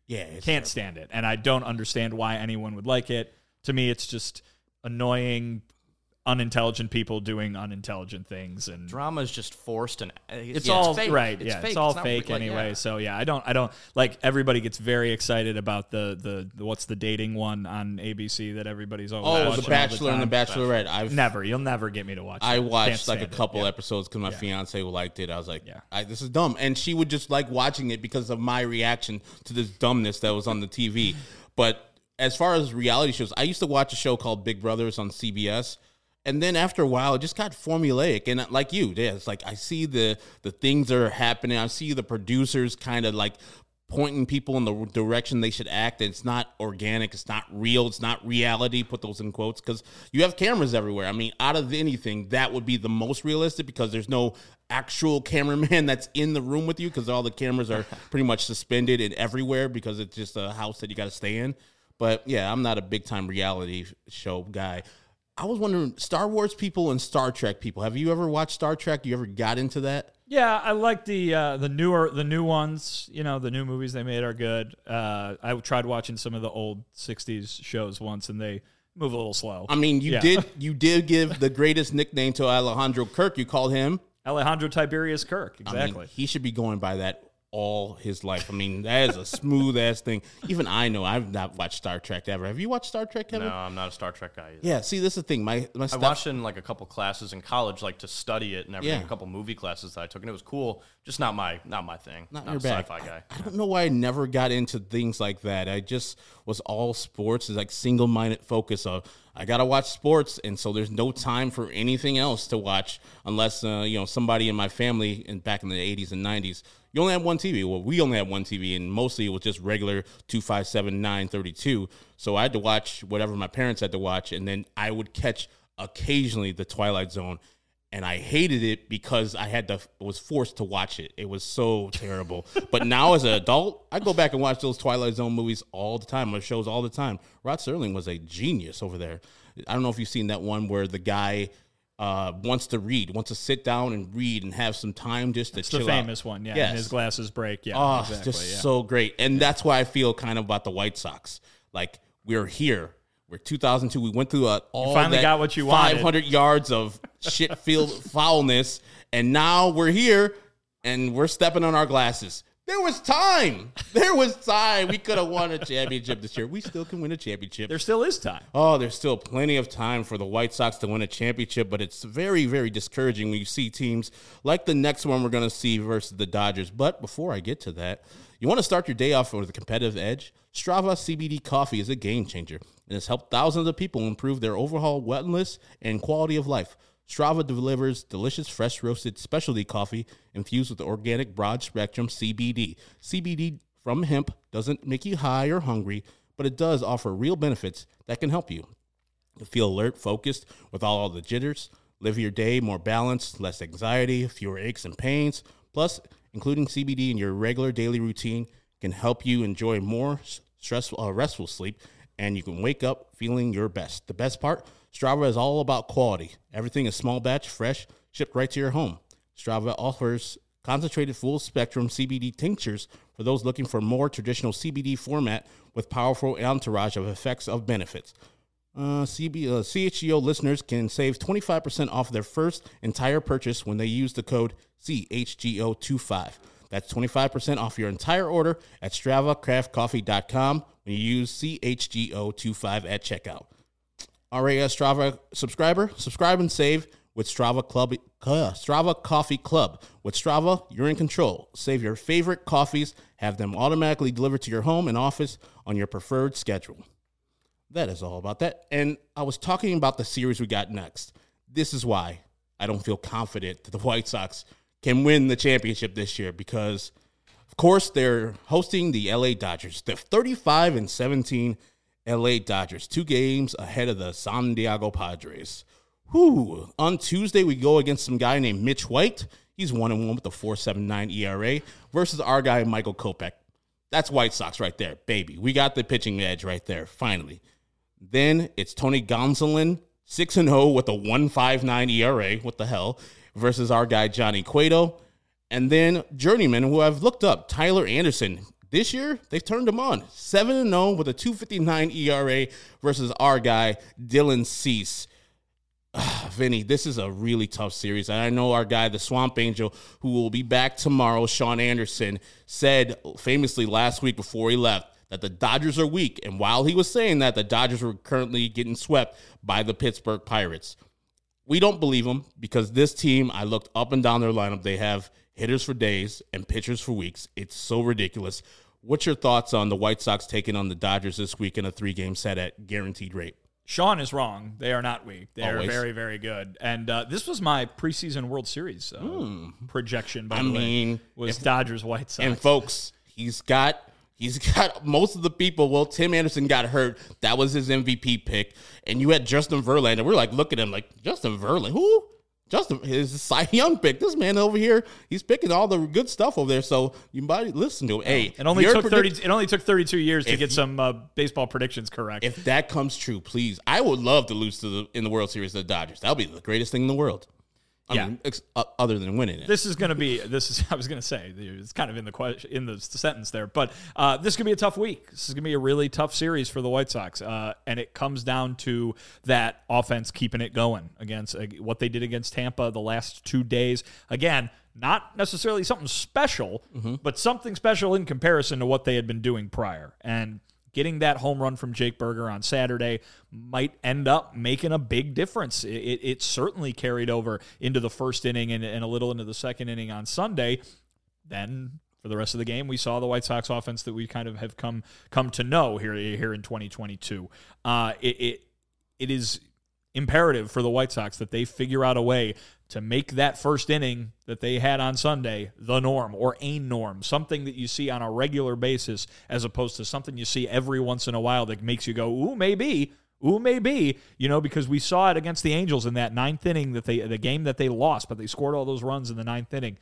Can't stand it. And I don't understand why anyone would like it. To me, it's just annoying, unintelligent people doing unintelligent things, and Drama is just forced, and it's all fake. right. It's yeah, fake. it's all not fake like, anyway. yeah. So yeah, I don't like, everybody gets very excited about the what's the dating one on ABC that everybody's always watching all The Bachelor and the time. Bachelorette. You'll never get me to watch it. I Can't watched like a stand it. couple Yeah. episodes because my fiance liked it. I was like, Yeah. this is dumb. And she would just like watching it because of my reaction to this dumbness that was on the TV. But as far as reality shows, I used to watch a show called Big Brothers on CBS. And then after a while, it just got formulaic. And like you, it's like I see the things that are happening. I see the producers kind of like pointing people in the direction they should act. And it's not organic. It's not real. It's not reality. Put those in quotes because you have cameras everywhere. I mean, out of anything, that would be the most realistic because there's no actual cameraman that's in the room with you because all the cameras are pretty much suspended and everywhere because it's just a house that you got to stay in. But yeah, I'm not a big time reality show guy. I was wondering, Star Wars people and Star Trek people. Have you ever watched Star Trek? You ever got into that? Yeah, I like the new ones. You know, the new movies they made are good. I tried watching some of the old '60s shows once, and they move a little slow. I mean, you did give the greatest nickname to Alejandro Kirk. You called him Alejandro Tiberius Kirk. Exactly. I mean, he should be going by that all his life. I mean, that is a smooth ass thing. Even I know I've not watched Star Trek ever. Have you watched Star Trek, Kevin? No, I'm not a Star Trek guy either. Yeah, see, this is the thing. My I stuff, watched it in like a couple classes in college, like to study it and everything. Yeah. A couple movie classes that I took, and it was cool. Just not my thing. Not Not your a bag. sci-fi guy. I don't know why I never got into things like that. I just was all sports. It's like single-minded focus of I gotta watch sports, and so there's no time for anything else to watch unless somebody in my family and back in the 80s and 90s. You only had one TV. Well, we only had one TV, and mostly it was just regular 257 932. So I had to watch whatever my parents had to watch, and then I would catch occasionally the Twilight Zone. And I hated it because was forced to watch it. It was so terrible. But now as an adult, I go back and watch those Twilight Zone movies all the time, or shows all the time. Rod Serling was a genius over there. I don't know if you've seen that one where the guy wants to sit down and read and have some time just to chill out. The famous one, yeah. Yes. And his glasses break, yeah. Oh, exactly, just so great. And that's why I feel kind of about the White Sox. Like, we're here. We're 2002. We went through all finally that got what you wanted. 500 yards of shit field foulness, and now we're here, and we're stepping on our glasses. There was time. We could have won a championship this year. We still can win a championship. There still is time. Oh, there's still plenty of time for the White Sox to win a championship, but it's very, very discouraging when you see teams like the next one we're going to see versus the Dodgers. But before I get to that, you want to start your day off with a competitive edge? Strava CBD coffee is a game changer and has helped thousands of people improve their overall wellness and quality of life. Strava delivers delicious, fresh roasted specialty coffee infused with organic broad spectrum CBD. CBD from hemp doesn't make you high or hungry, but it does offer real benefits that can help you. You'll feel alert, focused with all the jitters, live your day more balanced, less anxiety, fewer aches and pains. Plus, including CBD in your regular daily routine can help you enjoy more restful sleep, and you can wake up feeling your best. The best part, Strava is all about quality. Everything is small batch, fresh, shipped right to your home. Strava offers concentrated full-spectrum CBD tinctures for those looking for more traditional CBD format with powerful entourage of effects of benefits. CHGO listeners can save 25% off their first entire purchase when they use the code CHGO25. That's 25% off your entire order at StravaCraftCoffee.com when you use CHGO25 at checkout. All right, Strava subscriber, subscribe and save with Strava Coffee Club. With Strava, you're in control. Save your favorite coffees, have them automatically delivered to your home and office on your preferred schedule. That is all about that. And I was talking about the series we got next. This is why I don't feel confident that the White Sox can win the championship this year because, of course, they're hosting the LA Dodgers. They're 35-17 LA Dodgers, 2 games ahead of the San Diego Padres. Whew. On Tuesday, we go against some guy named Mitch White. He's 1-1 with a 4.79 ERA versus our guy, Michael Kopech. That's White Sox right there, baby. We got the pitching edge right there, finally. Then it's Tony Gonsolin, 6-0 with a 1.59 ERA. What the hell? Versus our guy, Johnny Cueto. And then journeyman, who I've looked up, Tyler Anderson, This year, they've turned them on. 7-0 with a 2.59 ERA versus our guy, Dylan Cease. Vinny, this is a really tough series. And I know our guy, the Swamp Angel, who will be back tomorrow, Sean Anderson, said famously last week before he left that the Dodgers are weak. And while he was saying that, the Dodgers were currently getting swept by the Pittsburgh Pirates. We don't believe him because this team, I looked up and down their lineup. They have hitters for days and pitchers for weeks. It's so ridiculous. What's your thoughts on the White Sox taking on the Dodgers this week in a 3-game set at guaranteed rate? Sean is wrong. They are not weak. They are Always. very, very good. And this was my preseason World Series projection, by the way, was Dodgers White Sox. And folks, he's got most of the people. Well, Tim Anderson got hurt. That was his MVP pick. And you had Justin Verlander. We're like, look at him like, Justin Verlander? Who? Justin, his Cy Young pick. This man over here, he's picking all the good stuff over there. So you might listen to him. Hey, it only took 32 years to get some baseball predictions correct. If that comes true, please, I would love to lose in the World Series to the Dodgers. That would be the greatest thing in the world. I mean, other than winning it. I was going to say, it's kind of in the sentence there, but this is going to be a tough week. This is going to be a really tough series for the White Sox, and it comes down to that offense keeping it going against what they did against Tampa the last 2 days. Again, not necessarily something special, but something special in comparison to what they had been doing prior. And getting that home run from Jake Burger on Saturday might end up making a big difference. It certainly carried over into the first inning and a little into the second inning on Sunday. Then for the rest of the game, we saw the White Sox offense that we kind of have come to know here in 2022. It is imperative for the White Sox that they figure out a way to make that first inning that they had on Sunday the norm or a norm, something that you see on a regular basis as opposed to something you see every once in a while that makes you go, ooh, maybe, because we saw it against the Angels in that ninth inning, the game that they lost, but they scored all those runs in the ninth inning.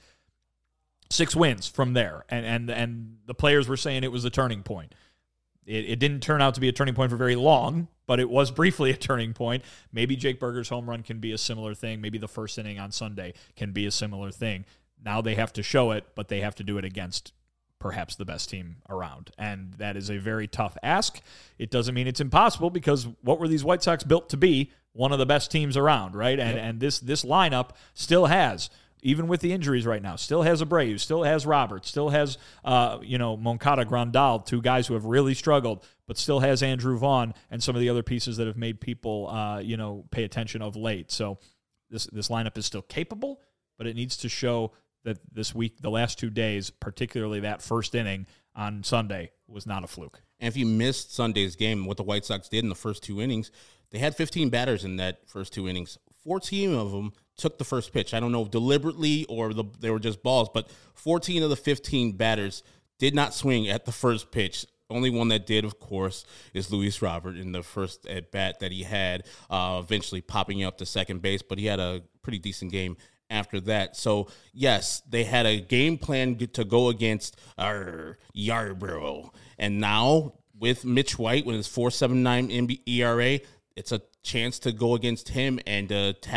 6 wins from there, and the players were saying it was a turning point. It didn't turn out to be a turning point for very long, but it was briefly a turning point. Maybe Jake Burger's home run can be a similar thing. Maybe the first inning on Sunday can be a similar thing. Now they have to show it, but they have to do it against perhaps the best team around. And that is a very tough ask. It doesn't mean it's impossible because what were these White Sox built to be? One of the best teams around, right? And this lineup still has, even with the injuries right now, still has Abreu, still has Roberts, still has, Moncada, Grandal, 2 guys who have really struggled, but still has Andrew Vaughn and some of the other pieces that have made people, pay attention of late. So this lineup is still capable, but it needs to show that this week, the last 2 days, particularly that first inning on Sunday, was not a fluke. And if you missed Sunday's game, what the White Sox did in the first 2 innings, they had 15 batters in that first 2 innings. 14 of them took the first pitch. I don't know if deliberately or they were just balls, but 14 of the 15 batters did not swing at the first pitch. Only one that did, of course, is Luis Robert in the first at-bat that he had, eventually popping up to second base, but he had a pretty decent game after that. So, yes, they had a game plan to go against Yarbrough. And now, with Mitch White, with his 4.79 ERA, it's a chance to go against him and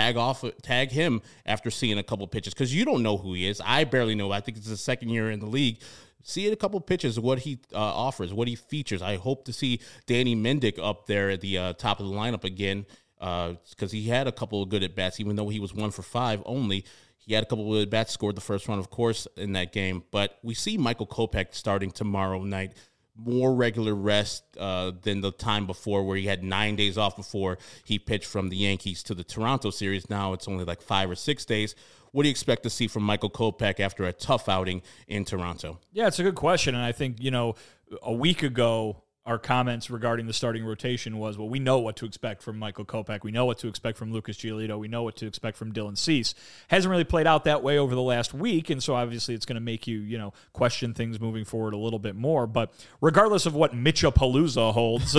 tag him after seeing a couple pitches, because you don't know who he is. I barely know. I think it's his second year in the league. See a couple pitches, what he offers, what he features. I hope to see Danny Mendick up there at the top of the lineup again, because he had a couple of good at-bats, even though he was 1 for 5 only. He had a couple of at-bats, scored the first run, of course, in that game. But we see Michael Kopech starting tomorrow night. More regular rest than the time before, where he had 9 days off before he pitched from the Yankees to the Toronto series. Now it's only like 5 or 6 days. What do you expect to see from Michael Kopech after a tough outing in Toronto? Yeah, it's a good question. And I think, a week ago, our comments regarding the starting rotation was, well, we know what to expect from Michael Kopech. We know what to expect from Lucas Giolito. We know what to expect from Dylan Cease. Hasn't really played out that way over the last week, and so obviously it's going to make you, question things moving forward a little bit more. But regardless of what Mitchapalooza holds,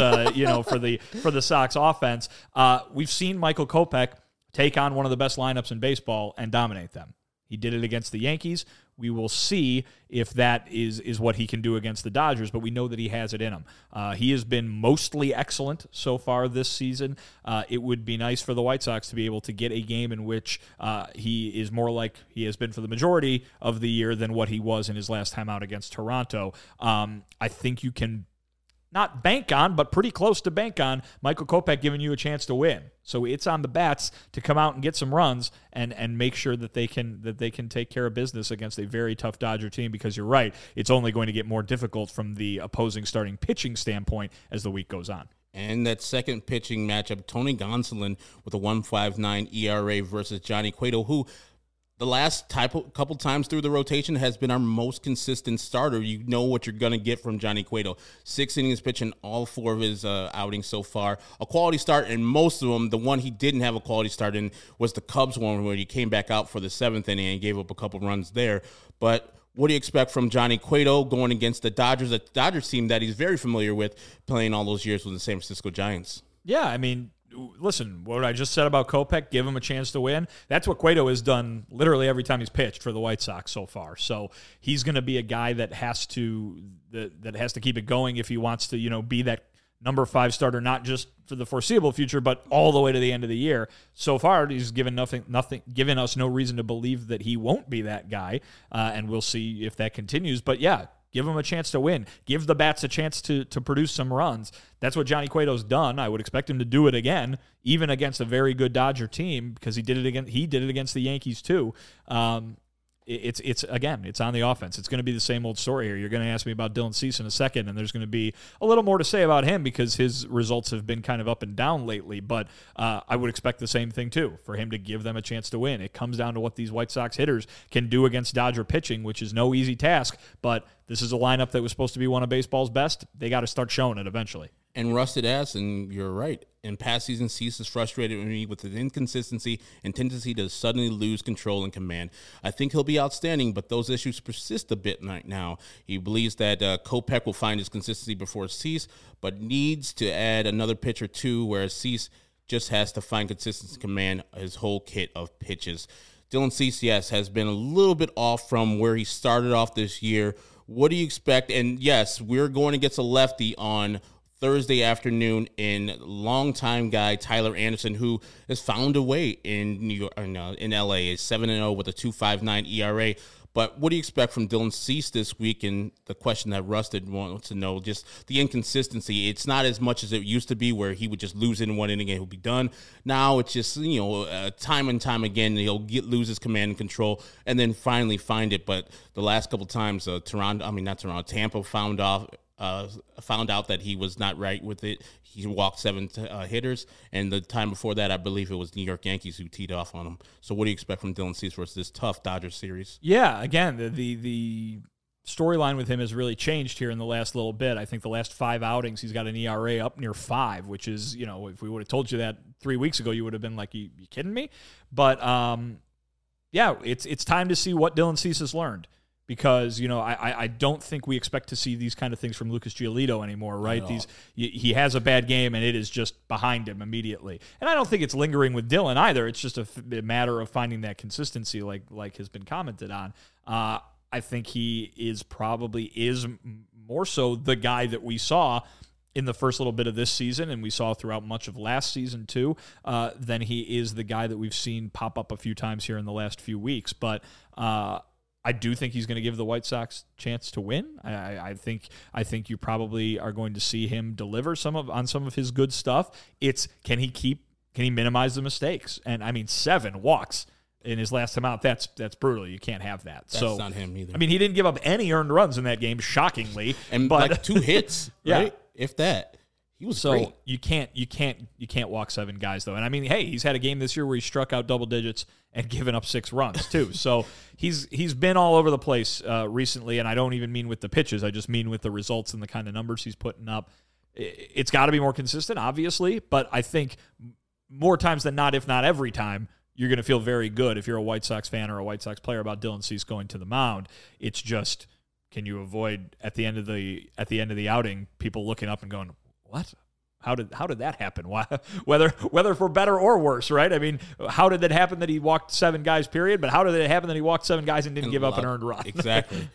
for the Sox offense, we've seen Michael Kopech take on one of the best lineups in baseball and dominate them. He did it against the Yankees We will see if that is what he can do against the Dodgers, but we know that he has it in him. He has been mostly excellent so far this season. It would be nice for the White Sox to be able to get a game in which he is more like he has been for the majority of the year than what he was in his last time out against Toronto. I think you can not bank on, but pretty close to bank on Michael Kopech giving you a chance to win. So it's on the bats to come out and get some runs and make sure that they can take care of business against a very tough Dodger team, because you're right, it's only going to get more difficult from the opposing starting pitching standpoint as the week goes on. And that second pitching matchup, Tony Gonsolin with a 1.59 ERA versus Johnny Cueto, who the last couple times through the rotation has been our most consistent starter. You know what you're going to get from Johnny Cueto. 6 innings pitching all 4 of his outings so far. A quality start in most of them. The one he didn't have a quality start in was the Cubs one, where he came back out for the 7th inning and gave up a couple runs there. But what do you expect from Johnny Cueto going against the Dodgers, a Dodgers team that he's very familiar with, playing all those years with the San Francisco Giants? Yeah, I mean, listen, what I just said about Kopech, give him a chance to win. That's what Cueto has done literally every time he's pitched for the White Sox so far. So he's going to be a guy that has to keep it going if he wants to, be that number 5 starter, not just for the foreseeable future, but all the way to the end of the year. So far, he's given us no reason to believe that he won't be that guy, and we'll see if that continues. But yeah, give him a chance to win. Give the bats a chance to produce some runs. That's what Johnny Cueto's done. I would expect him to do it again, even against a very good Dodger team, because he did it against the Yankees too. It's on the offense. It's going to be the same old story here. You're going to ask me about Dylan Cease in a second, and there's going to be a little more to say about him because his results have been kind of up and down lately. But I would expect the same thing too, for him to give them a chance to win. It comes down to what these White Sox hitters can do against Dodger pitching, which is no easy task. But this is a lineup that was supposed to be one of baseball's best. They got to start showing it eventually. And rusted ass, and you're right. In past seasons, Cease has frustrated me with his inconsistency and tendency to suddenly lose control and command. I think he'll be outstanding, but those issues persist a bit right now. He believes that Kopech will find his consistency before Cease, but needs to add another pitch or two, whereas Cease just has to find consistency and command his whole kit of pitches. Dylan Cease, yes, has been a little bit off from where he started off this year. What do you expect? And yes, we're going against a lefty on Thursday afternoon, in longtime guy Tyler Anderson, who has found a way in New York, in LA, is 7-0 with a 2.59 ERA. But what do you expect from Dylan Cease this week? And the question that Rusted wants to know, just the inconsistency. It's not as much as it used to be, where he would just lose in one inning and he'll be done. Now it's just time and time again he'll lose his command and control, and then finally find it. But the last couple times, Tampa found out that he was not right with it. He walked 7 hitters, and the time before that, I believe it was New York Yankees who teed off on him. So what do you expect from Dylan Cease versus this tough Dodgers series? Yeah, again, the storyline with him has really changed here in the last little bit. I think the last 5 outings, he's got an ERA up near 5, which is, if we would have told you that 3 weeks ago, you would have been like, you kidding me? But, yeah, it's time to see what Dylan Cease has learned. Because, I don't think we expect to see these kind of things from Lucas Giolito anymore, right? He has a bad game, and it is just behind him immediately. And I don't think it's lingering with Dylan either. It's just a matter of finding that consistency, like has been commented on. I think he is more so the guy that we saw in the first little bit of this season, and we saw throughout much of last season too, than he is the guy that we've seen pop up a few times here in the last few weeks. But I do think he's going to give the White Sox a chance to win. I think you probably are going to see him deliver on some of his good stuff. It's can he minimize the mistakes? And I mean, 7 walks in his last time out. That's brutal. You can't have that. That's not him either. I mean, he didn't give up any earned runs in that game, shockingly, but 2 hits, right? Yeah. If that. He was great. You can't walk 7 guys though. And I mean, hey, he's had a game this year where he struck out double digits and given up 6 runs too. So he's been all over the place recently, and I don't even mean with the pitches. I just mean with the results and the kind of numbers he's putting up. It's got to be more consistent, obviously, but I think more times than not, if not every time, you're going to feel very good if you're a White Sox fan or a White Sox player about Dylan Cease going to the mound. It's just, can you avoid at the end of the outing people looking up and going, what? How did that happen? Why, whether for better or worse, right? I mean, how did that happen that he walked 7 guys, period? But how did it happen that he walked 7 guys and didn't give up an earned run? Exactly.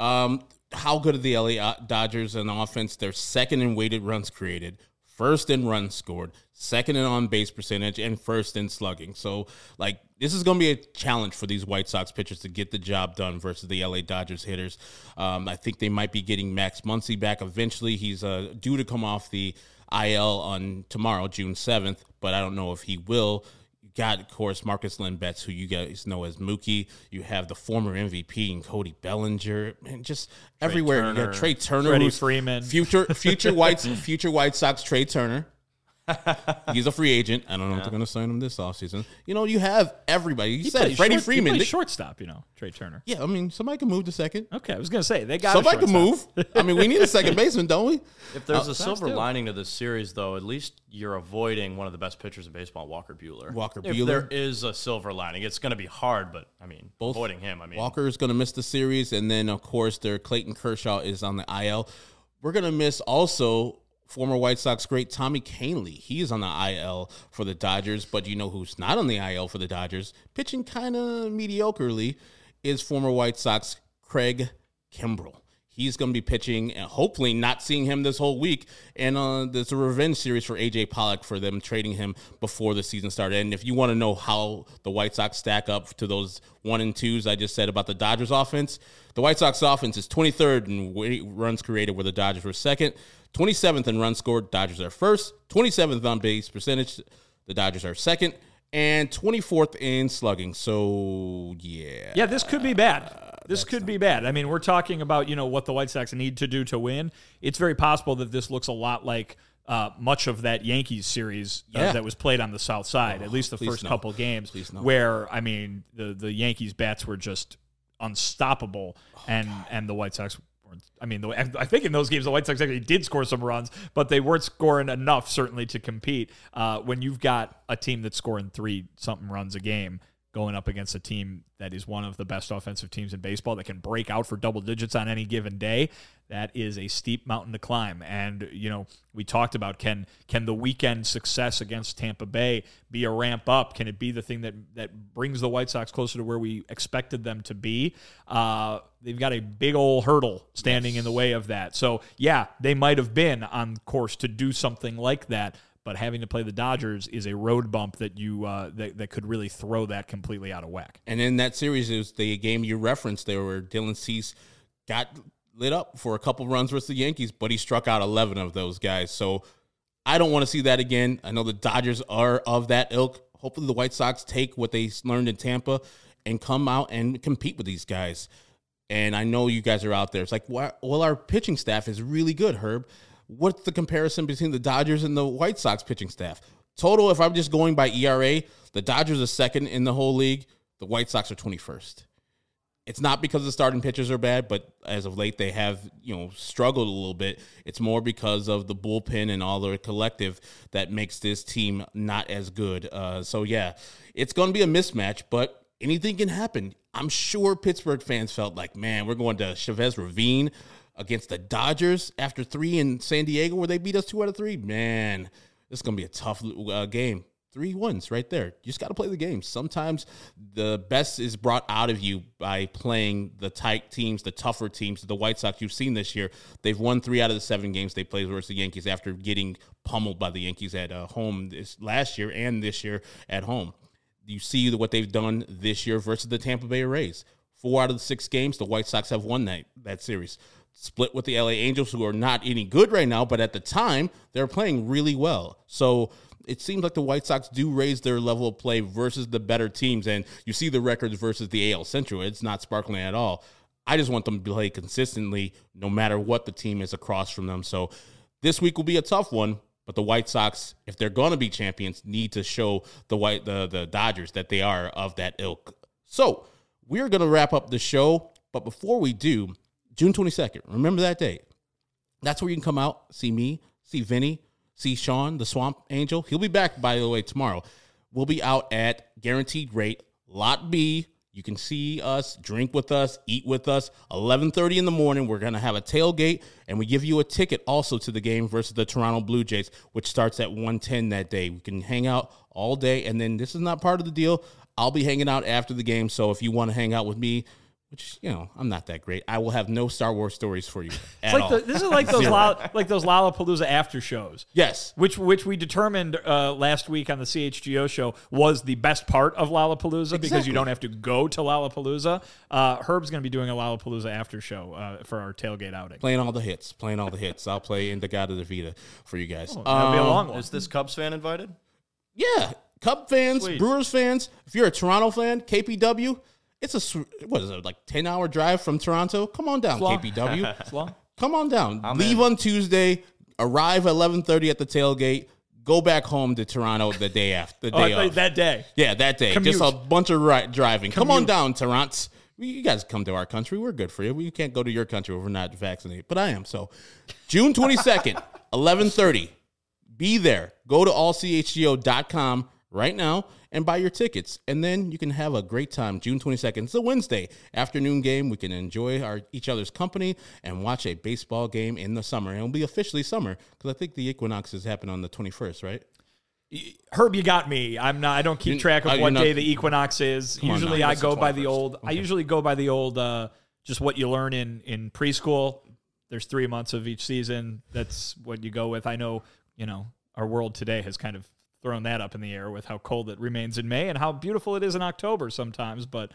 How good are the LA Dodgers in offense? They're second in weighted runs created, first in runs scored, second in on-base percentage, and first in slugging. So, this is going to be a challenge for these White Sox pitchers to get the job done versus the LA Dodgers hitters. I think they might be getting Max Muncy back eventually. He's due to come off the IL on tomorrow, June 7th, but I don't know if he will. You got, of course, Marcus Lynn Betts, who you guys know as Mookie. You have the former MVP and Cody Bellinger, and just everywhere. Turner, you got Trey Turner, Freddie who's Freeman, future White Sox Trey Turner. He's a free agent. I don't know if they're going to sign him this offseason. You have everybody. You said Freddie Freeman. He plays shortstop, Trey Turner. Yeah, I mean, somebody can move to second. Okay, I was going to say, they got somebody can move. I mean, we need a second baseman, don't we? If there's a silver lining to this series, though, at least you're avoiding one of the best pitchers in baseball, Walker Buehler. If there is a silver lining, it's going to be hard, but, avoiding him, Walker is going to miss the series, and then, of course, their Clayton Kershaw is on the IL. We're going to miss also former White Sox great Tommy Kahnle. He is on the IL for the Dodgers, but you know who's not on the IL for the Dodgers, pitching kind of mediocrely, is former White Sox Craig Kimbrell. He's going to be pitching, and hopefully not seeing him this whole week. And there's a revenge series for A.J. Pollock for them trading him before the season started. And if you want to know how the White Sox stack up to those 1 and 2s I just said about the Dodgers offense, the White Sox offense is 23rd in runs created, where the Dodgers were second. 27th in runs scored, Dodgers are first. 27th on base percentage, the Dodgers are second. And 24th in slugging. So, yeah. Yeah, this could be bad. This could be bad. I mean, we're talking about, what the White Sox need to do to win. It's very possible that this looks a lot like much of that Yankees series that was played on the South Side, at least the first couple games, where, the Yankees' bats were just unstoppable, and the White Sox I think in those games the White Sox actually did score some runs, but they weren't scoring enough, certainly, to compete. When you've got a team that's scoring 3-something runs a game going up against a team that is one of the best offensive teams in baseball that can break out for double digits on any given day, that is a steep mountain to climb. And, we talked about can the weekend success against Tampa Bay be a ramp up? Can it be the thing that brings the White Sox closer to where we expected them to be? They've got a big old hurdle standing in the way of that. So, yeah, they might have been on course to do something like that, but having to play the Dodgers is a road bump that that could really throw that completely out of whack. And in that series, it was the game you referenced there where Dylan Cease got lit up for a couple runs versus the Yankees, but he struck out 11 of those guys. So I don't want to see that again. I know the Dodgers are of that ilk. Hopefully the White Sox take what they learned in Tampa and come out and compete with these guys. And I know you guys are out there. It's like, well, our pitching staff is really good, Herb. What's the comparison between the Dodgers and the White Sox pitching staff? Total, if I'm just going by ERA, the Dodgers are second in the whole league. The White Sox are 21st. It's not because the starting pitchers are bad, but as of late they have, struggled a little bit. It's more because of the bullpen and all the collective that makes this team not as good. So, yeah, it's going to be a mismatch, but anything can happen. I'm sure Pittsburgh fans felt like, man, we're going to Chavez Ravine against the Dodgers after 3 in San Diego where they beat us 2 out of 3. Man, this is going to be a tough game. 3 wins right there. You just got to play the game. Sometimes the best is brought out of you by playing the tight teams, the tougher teams. The White Sox, you've seen this year, they've won 3 out of the 7 games they played versus the Yankees after getting pummeled by the Yankees at home last year and this year at home. You see what they've done this year versus the Tampa Bay Rays. 4 out of the 6 games, the White Sox have won that series. Split with the LA Angels, who are not any good right now, but at the time, they're playing really well. So it seems like the White Sox do raise their level of play versus the better teams, and you see the records versus the AL Central. It's not sparkling at all. I just want them to play consistently no matter what the team is across from them. So this week will be a tough one, but the White Sox, if they're going to be champions, need to show the Dodgers that they are of that ilk. So we're going to wrap up the show, but before we do, June 22nd, remember that date. That's where you can come out, see me, see Vinny, see Sean, the Swamp Angel. He'll be back, by the way, tomorrow. We'll be out at Guaranteed Rate, Lot B, You can see us, drink with us, eat with us. 11:30 in the morning, we're going to have a tailgate, and we give you a ticket also to the game versus the Toronto Blue Jays, which starts at 1:10 that day. We can hang out all day, and then this is not part of the deal. I'll be hanging out after the game, so if you want to hang out with me, which, I'm not that great, I will have no Star Wars stories for you at all. This is like those Lollapalooza after shows. Yes. Which we determined last week on the CHGO show was the best part of Lollapalooza because you don't have to go to Lollapalooza. Herb's going to be doing a Lollapalooza after show for our tailgate outing. Playing all the hits. I'll play Indagata de Vida for you guys. That'll be a long one. Is this Cubs fan invited? Yeah. Cub fans, Sweet. Brewers fans, if you're a Toronto fan, KPW, it's a, 10-hour drive from Toronto? Come on down, KPW. It's long. Come on down. I'm Leave in. on Tuesday, arrive at 11:30 at the tailgate, go back home to Toronto the day after. The day of. That day. Yeah, that day. Commute. Just a bunch of driving. Come on down, Toronto. You guys come to our country. We're good for you. We can't go to your country if we're not vaccinated. But I am. So June 22nd, 11:30. Be there. Go to allchgo.com right now and buy your tickets. And then you can have a great time. June 22nd. It's a Wednesday afternoon game. We can enjoy each other's company and watch a baseball game in the summer. And it'll be officially summer because I think the equinoxes happen on the 21st, right? Herb, you got me. I don't keep track of what day the equinox is. Usually I go by the old. Okay. I usually go by the old. Just what you learn in preschool. There's 3 months of each season. That's what you go with. I know. Our world today has kind of thrown that up in the air with how cold it remains in May and how beautiful it is in October sometimes. But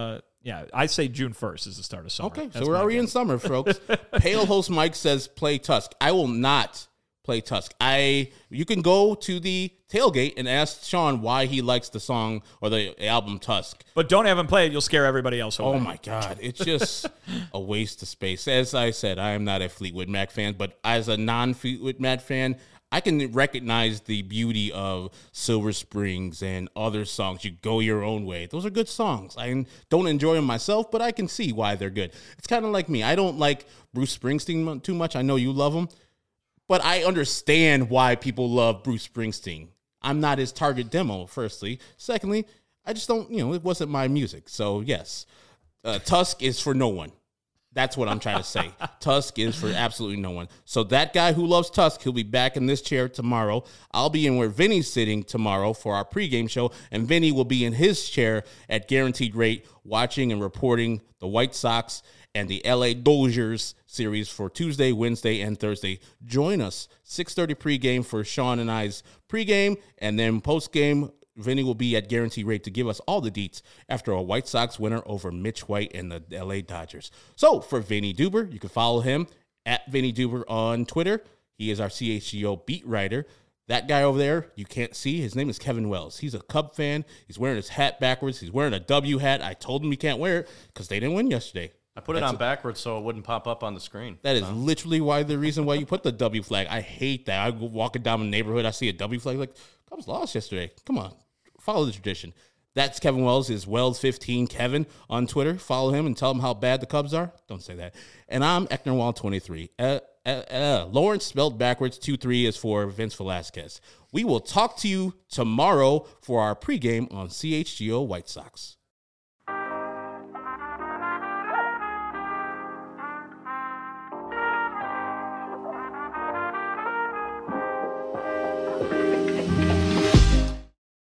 I say June 1st is the start of summer. Okay, That's so we're already in summer, folks. Pale Host Mike says play Tusk. I will not play Tusk. You can go to the tailgate and ask Sean why he likes the song or the album Tusk. But don't have him play it. You'll scare everybody else away. Oh, my God. It's just a waste of space. As I said, I am not a Fleetwood Mac fan, but as a non-Fleetwood Mac fan, I can recognize the beauty of Silver Springs and other songs. You Go Your Own Way. Those are good songs. I don't enjoy them myself, but I can see why they're good. It's kind of like me. I don't like Bruce Springsteen too much. I know you love him, but I understand why people love Bruce Springsteen. I'm not his target demo, firstly. Secondly, I just don't, it wasn't my music. So, yes, Tusk is for no one. That's what I'm trying to say. Tusk is for absolutely no one. So that guy who loves Tusk, he'll be back in this chair tomorrow. I'll be in where Vinny's sitting tomorrow for our pregame show, and Vinny will be in his chair at Guaranteed Rate watching and reporting the White Sox and the LA Dodgers series for Tuesday, Wednesday, and Thursday. Join us, 6:30 pregame for Sean and I's pregame, and then postgame, Vinny will be at Guaranteed Rate to give us all the deets after a White Sox winner over Mitch White and the LA Dodgers. So for Vinny Duber, you can follow him at Vinny Duber on Twitter. He is our CHGO beat writer. That guy over there, you can't see. His name is Kevin Wells. He's a Cub fan. He's wearing his hat backwards. He's wearing a W hat. I told him he can't wear it because they didn't win yesterday. I put it on backwards so it wouldn't pop up on the screen. That is literally the reason why you put the W flag. I hate that. I go walking down the neighborhood, I see a W flag, like, Cubs lost yesterday. Come on. Follow the tradition. That's Kevin Wells, is Wells15 Kevin on Twitter. Follow him and tell him how bad the Cubs are. Don't say that. And I'm Ecknerwall23. Lawrence spelled backwards. 23 is for Vince Velasquez. We will talk to you tomorrow for our pregame on CHGO White Sox.